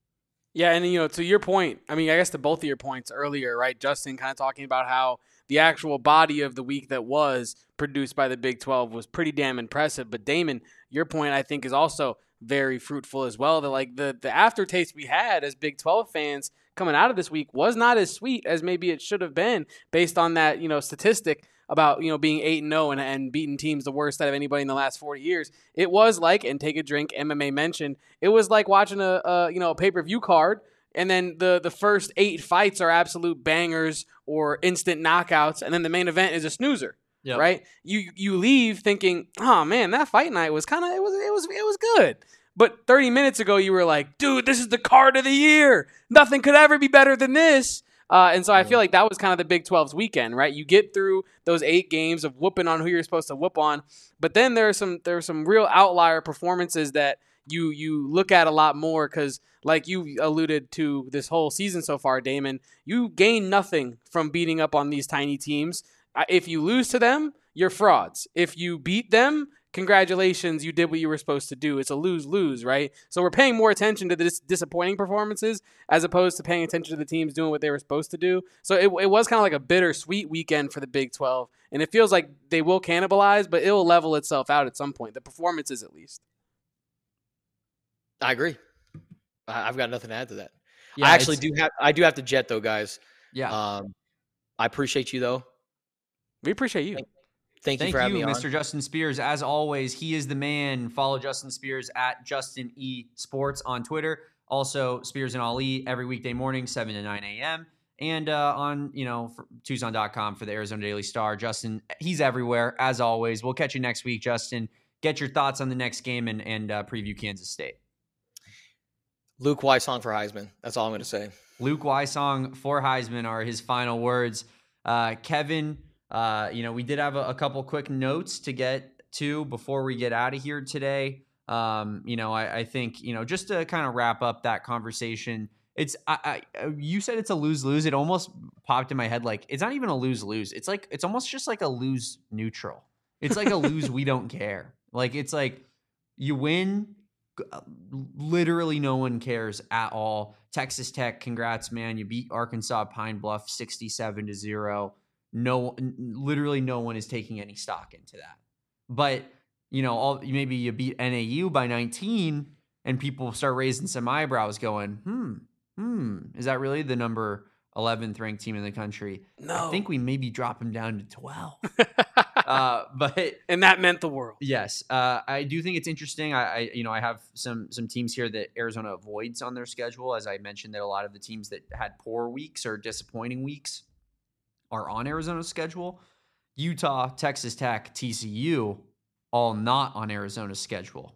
Yeah, and, you know, to your point, I mean, I guess to both of your points earlier, right, Justin, kind of talking about how the actual body of the week that was produced by the Big twelve was pretty damn impressive. But, Damon, your point, I think, is also very fruitful as well. That, like, the, the aftertaste we had as Big twelve fans coming out of this week was not as sweet as maybe it should have been based on that, you know, statistic about, you know, being eight and oh and, and beating teams the worst out of anybody in the last forty years. It was like, and take a drink, M M A mentioned, it was like watching a, a you know, a pay-per-view card, and then the, the first eight fights are absolute bangers or instant knockouts, and then the main event is a snoozer. Yep. Right? You you leave thinking, oh man, that fight night was kind of, it was it was it was good. But thirty minutes ago, you were like, dude, this is the card of the year. Nothing could ever be better than this. Uh, and so I feel like that was kind of the Big twelve's weekend, right? You get through those eight games of whooping on who you're supposed to whoop on, but then there are some there are some real outlier performances that you you look at a lot more because, like you alluded to this whole season so far, Damon, you gain nothing from beating up on these tiny teams. If you lose to them, you're frauds. If you beat them, congratulations, you did what you were supposed to do. It's a lose-lose, right? So we're paying more attention to the dis- disappointing performances as opposed to paying attention to the teams doing what they were supposed to do. So it, it was kind of like a bittersweet weekend for the Big twelve, and it feels like they will cannibalize, but it will level itself out at some point, the performances at least. I agree. I've got nothing to add to that. Yeah, I actually do have I do have to jet, though, guys. Yeah. Um, I appreciate you, though. We appreciate you. Thank, thank you Thank for having you, me on. Mister Justin Spears. As always, he is the man. Follow Justin Spears at Justin E Sports on Twitter. Also, Spears and Ali every weekday morning, seven to nine a.m. And uh, on, you know, Tucson dot com for the Arizona Daily Star. Justin, he's everywhere, as always. We'll catch you next week, Justin. Get your thoughts on the next game and, and uh, preview Kansas State. Luke Weissong for Heisman. That's all I'm going to say. Luke Weissong for Heisman are his final words. Uh, Kevin, uh, you know, we did have a, a couple quick notes to get to before we get out of here today. Um, you know, I, I think, you know, just to kind of wrap up that conversation, it's, I, I, you said it's a lose-lose. It almost popped in my head. Like, it's not even a lose-lose. It's like, it's almost just like a lose neutral. It's like a lose. We don't care. Like, it's like you win. Literally no one cares at all. Texas Tech, congrats, man. You beat Arkansas Pine Bluff sixty-seven to zero. No, literally no one is taking any stock into that. But, you know, all maybe you beat N A U by nineteen and people start raising some eyebrows going, hmm, hmm, is that really the number eleventh ranked team in the country. No. I think we maybe drop him down to twelve. uh, but and that meant the world. Yes, uh, I do think it's interesting. I, I, you know, I have some some teams here that Arizona avoids on their schedule. As I mentioned, that a lot of the teams that had poor weeks or disappointing weeks are on Arizona's schedule. Utah, Texas Tech, T C U, all not on Arizona's schedule.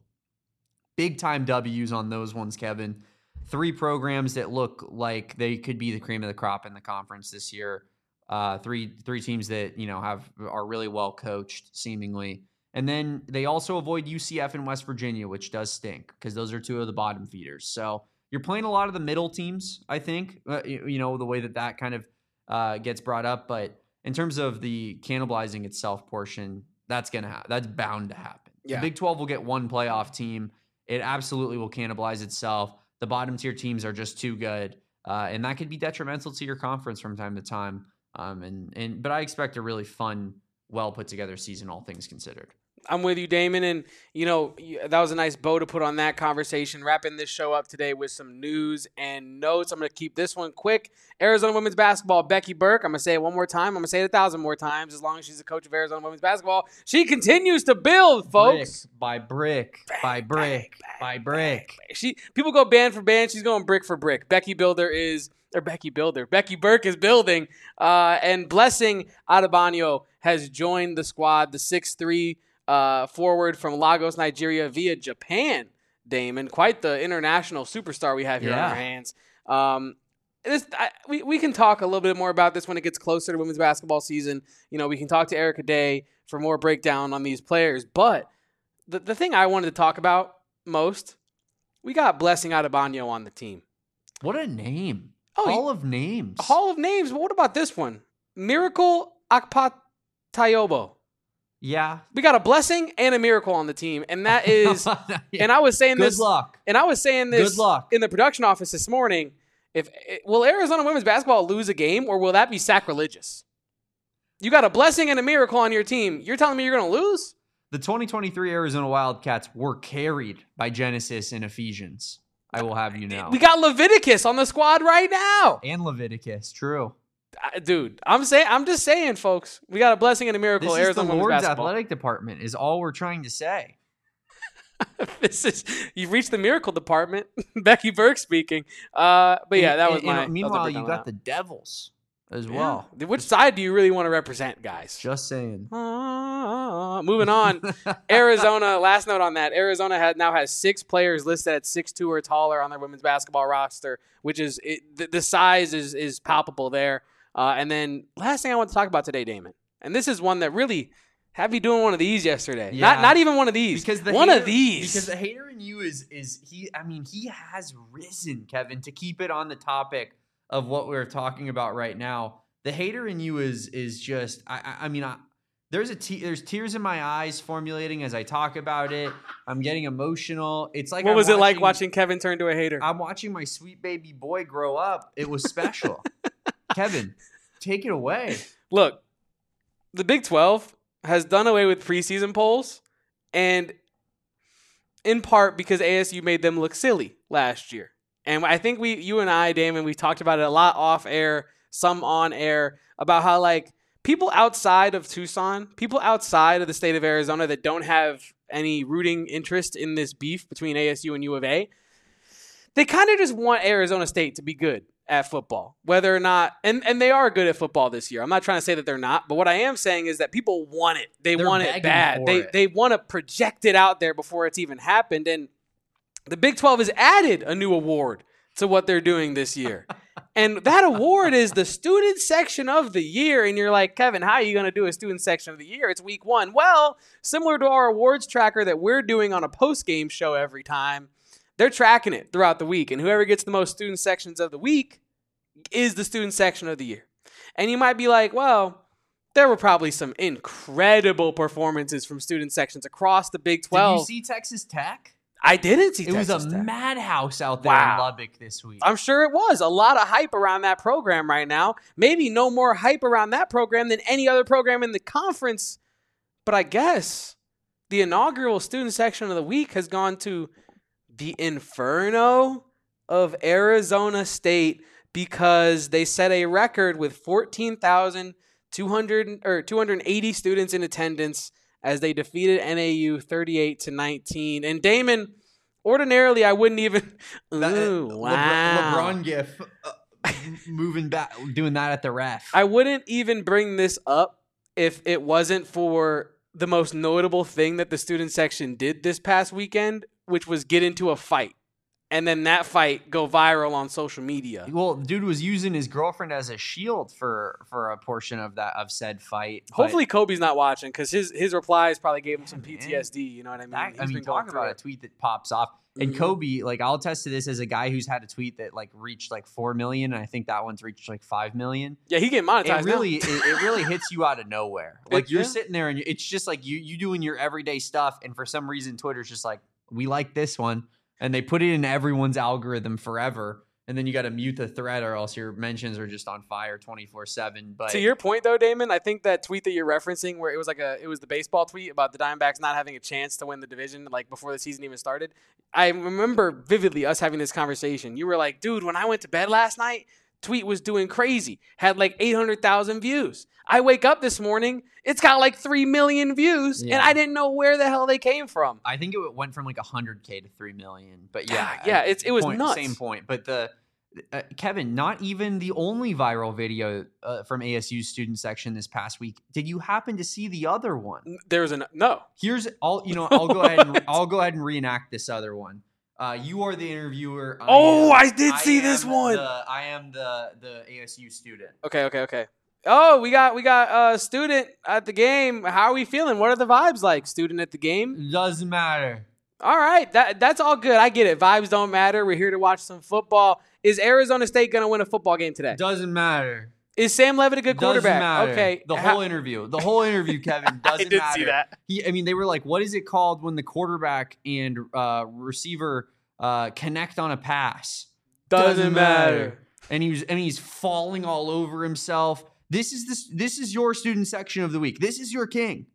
Big time W's on those ones, Kevin. Three programs that look like they could be the cream of the crop in the conference this year. Uh, three three teams that, you know, have are really well coached, seemingly. And then they also avoid U C F and West Virginia, which does stink because those are two of the bottom feeders. So you're playing a lot of the middle teams, I think, uh, you, you know, the way that that kind of uh, gets brought up. But in terms of the cannibalizing itself portion, that's going to happen. That's bound to happen. Yeah. The Big twelve will get one playoff team. It absolutely will cannibalize itself. The bottom tier teams are just too good. Uh, and that could be detrimental to your conference from time to time. Um, and, and, but I expect a really fun, well put together season, all things considered. I'm with you, Damon. And, you know, that was a nice bow to put on that conversation. Wrapping this show up today with some news and notes. I'm going to keep this one quick. Arizona women's basketball, Becky Burke. I'm going to say it one more time. I'm going to say it a thousand more times as long as she's the coach of Arizona women's basketball. She continues to build, folks. Brick by brick, by brick, by brick. She People go band for band. She's going brick for brick. Becky Builder is – or Becky Builder. Becky Burke is building. Uh, and Blessing Adebanyo has joined the squad, the six three Uh, forward from Lagos, Nigeria via Japan, Damon. Quite the international superstar we have here yeah. on our hands. Um, this, I, we, we can talk a little bit more about this when it gets closer to women's basketball season. You know, we can talk to Erica Day for more breakdown on these players. But the, the thing I wanted to talk about most, we got Blessing Adebanyo on the team. What a name. Oh, Hall of names. Hall of names. But what about this one? Miracle Akpatayobo. Yeah. We got a blessing and a miracle on the team. And that is, yeah. and I was saying Good this. Good luck. And I was saying this Good luck. in the production office this morning. If will Arizona women's basketball lose a game or will that be sacrilegious? You got a blessing and a miracle on your team. You're telling me you're going to lose? The twenty twenty-three Arizona Wildcats were carried by Genesis and Ephesians. I will have you know. We got Leviticus on the squad right now. And Leviticus, true. Dude, I'm saying, I'm just saying, folks. We got a blessing and a miracle. This Arizona is the women's Lord's basketball. athletic department. Is all we're trying to say. This is you've reached the miracle department. Becky Burke speaking. Uh, but yeah, that was and, my. and meanwhile, was you got the Devils as well. Yeah. Which side do you really want to represent, guys? Just saying. Uh, moving on. Arizona. Last note on that. Arizona had now has six players listed at six two or taller on their women's basketball roster, which is it, the, the size is is palpable there. Uh, and then last thing I want to talk about today, Damon, and this is one that really had me doing one of these yesterday. Yeah. Not not even one of these. Because the one hater, of these. Because the hater in you is is he. I mean, he has risen, Kevin. To keep it on the topic of what we're talking about right now, the hater in you is is just. I I, I mean, I, there's a te- there's tears in my eyes formulating as I talk about it. I'm getting emotional. It's like what I'm was watching, it like watching Kevin turn to a hater? I'm watching my sweet baby boy grow up. It was special. Kevin, take it away. Look, the Big twelve has done away with preseason polls, and in part because A S U made them look silly last year. And I think we, you and I, Damon, we talked about it a lot off air, some on air, about how like people outside of Tucson, people outside of the state of Arizona that don't have any rooting interest in this beef between A S U and U of A, they kind of just want Arizona State to be good at football, whether or not, and, and they are good at football this year. I'm not trying to say that they're not, but what I am saying is that people want it. They They're want it bad. They it. they want to project it out there before it's even happened. And the Big twelve has added a new award to what they're doing this year. And that award is the student section of the year. And you're like, Kevin, how are you going to do a student section of the year? It's week one. Well, similar to our awards tracker that we're doing on a post-game show every time, they're tracking it throughout the week. And whoever gets the most student sections of the week is the student section of the year. And you might be like, well, there were probably some incredible performances from student sections across the Big twelve. Did you see Texas Tech? I didn't see it Texas was a Tech. madhouse out there Wow. in Lubbock this week. I'm sure it was. A lot of hype around that program right now. Maybe no more hype around that program than any other program in the conference. But I guess the inaugural student section of the week has gone to the Inferno of Arizona State, because they set a record with fourteen thousand two hundred or two hundred eighty students in attendance as they defeated N A U thirty-eight to nineteen. And Damon, ordinarily I wouldn't even. That, ooh, uh, wow. LeBron, LeBron gif uh, moving back, doing that at the ref. I wouldn't even bring this up if it wasn't for the most notable thing that the student section did this past weekend, which was get into a fight. And then that fight go viral on social media. Well, dude was using his girlfriend as a shield for for a portion of that of said fight. Hopefully Kobe's not watching because his his replies probably gave him some P T S D. You know what I mean? That, I He's mean, been going talk about through a tweet that pops off. And Mhm. Kobe, like I'll attest to this as a guy who's had a tweet that like reached like four million, and I think that one's reached like five million. Yeah, he getting monetized. It really, now. it, it really hits you out of nowhere. Like It- you're yeah. sitting there and you, it's just like you you doing your everyday stuff, and for some reason Twitter's just like, we like this one, and they put it in everyone's algorithm forever. And then you got to mute the thread, or else your mentions are just on fire twenty-four seven. But To your point, though, Damon, I think that tweet that you're referencing, where it was like a, it was the baseball tweet about the Diamondbacks not having a chance to win the division, like before the season even started. I remember vividly us having this conversation. You were like, "Dude, when I went to bed last night, tweet was doing crazy, had like eight hundred thousand views. I wake up this morning, it's got like three million views, Yeah. and I didn't know where the hell they came from." I think it went from like one hundred K to three million. But yeah, Yeah, I- it's- it was point, nuts. Same point. But the uh, Kevin, not even the only viral video uh, from A S U's student section this past week. Did you happen to see the other one? There's an no. Here's I'll you know I'll go ahead and What? I'll go ahead and reenact this other one. Uh, you are the interviewer. I Oh, am- I did see this am one. The, I am the the A S U student. Okay, okay, okay. Oh, we got we got a student at the game. How are we feeling? What are the vibes like? Student at the game. Doesn't matter. All right, that that's all good. I get it. Vibes don't matter. We're here to watch some football. Is Arizona State gonna win a football game today? Doesn't matter. Is Sam Levitt a good quarterback? Doesn't matter. Okay, The how- whole interview. The whole interview, Kevin, I doesn't did matter. see that. He, I mean, they were like, what is it called when the quarterback and uh, receiver uh, connect on a pass? Doesn't matter. And he was, and he's falling all over himself. This is this. This is your student section of the week. This is your king.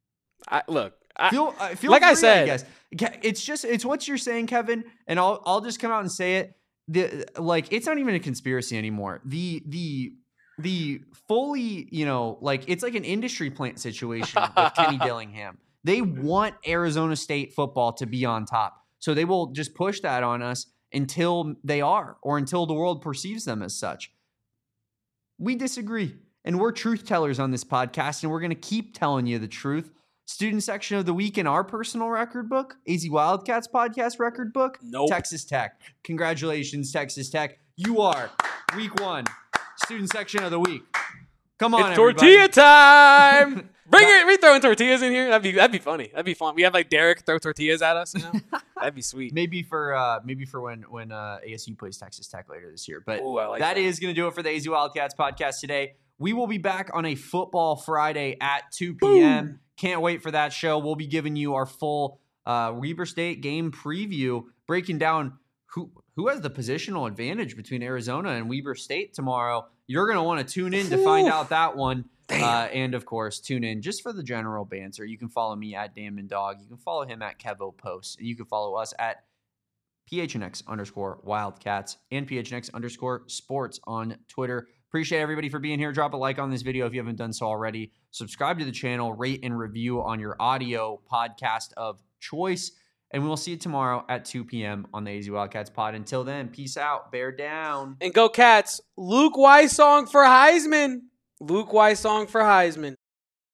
I, look, I, Feel, uh, feel like I free, said- guess. Ke- it's just it's what you're saying, Kevin. And I'll I'll just come out and say it. The like, it's not even a conspiracy anymore. The the the fully, you know, like it's like an industry plant situation with Kenny Dillingham. They want Arizona State football to be on top, so they will just push that on us until they are, or until the world perceives them as such. We disagree, and we're truth tellers on this podcast, and we're going to keep telling you the truth. Student section of the week in our personal record book, A Z Wildcats podcast record book, Nope. Texas Tech. Congratulations, Texas Tech. You are week one student section of the week. Come on, it's everybody. tortilla time. Bring it. We throwing tortillas in here. That'd be that'd be funny. That'd be fun. We have like Derek throw tortillas at us. You know? That'd be sweet. Maybe for uh, maybe for when when uh, A S U plays Texas Tech later this year. But Ooh, I like that that. is going to do it for the A Z Wildcats podcast today. We will be back on a Football Friday at two p.m. Boom. Can't wait for that show. We'll be giving you our full uh, Weber State game preview, breaking down who who has the positional advantage between Arizona and Weber State tomorrow. You're going to want to tune in to find Oof. out that one. Damn. Uh, and, of course, tune in just for the general banter. You can follow me at Damon Dog. You can follow him at Kevo Post. And you can follow us at PHNX underscore Wildcats and PHNX underscore Sports on Twitter. Appreciate everybody for being here. Drop a like on this video if you haven't done so already. Subscribe to the channel, rate and review on your audio podcast of choice. And we will see you tomorrow at two p.m. on the A Z Wildcats pod. Until then, peace out. Bear down. And go Cats. Luke Weiss song for Heisman. Luke Weiss song for Heisman.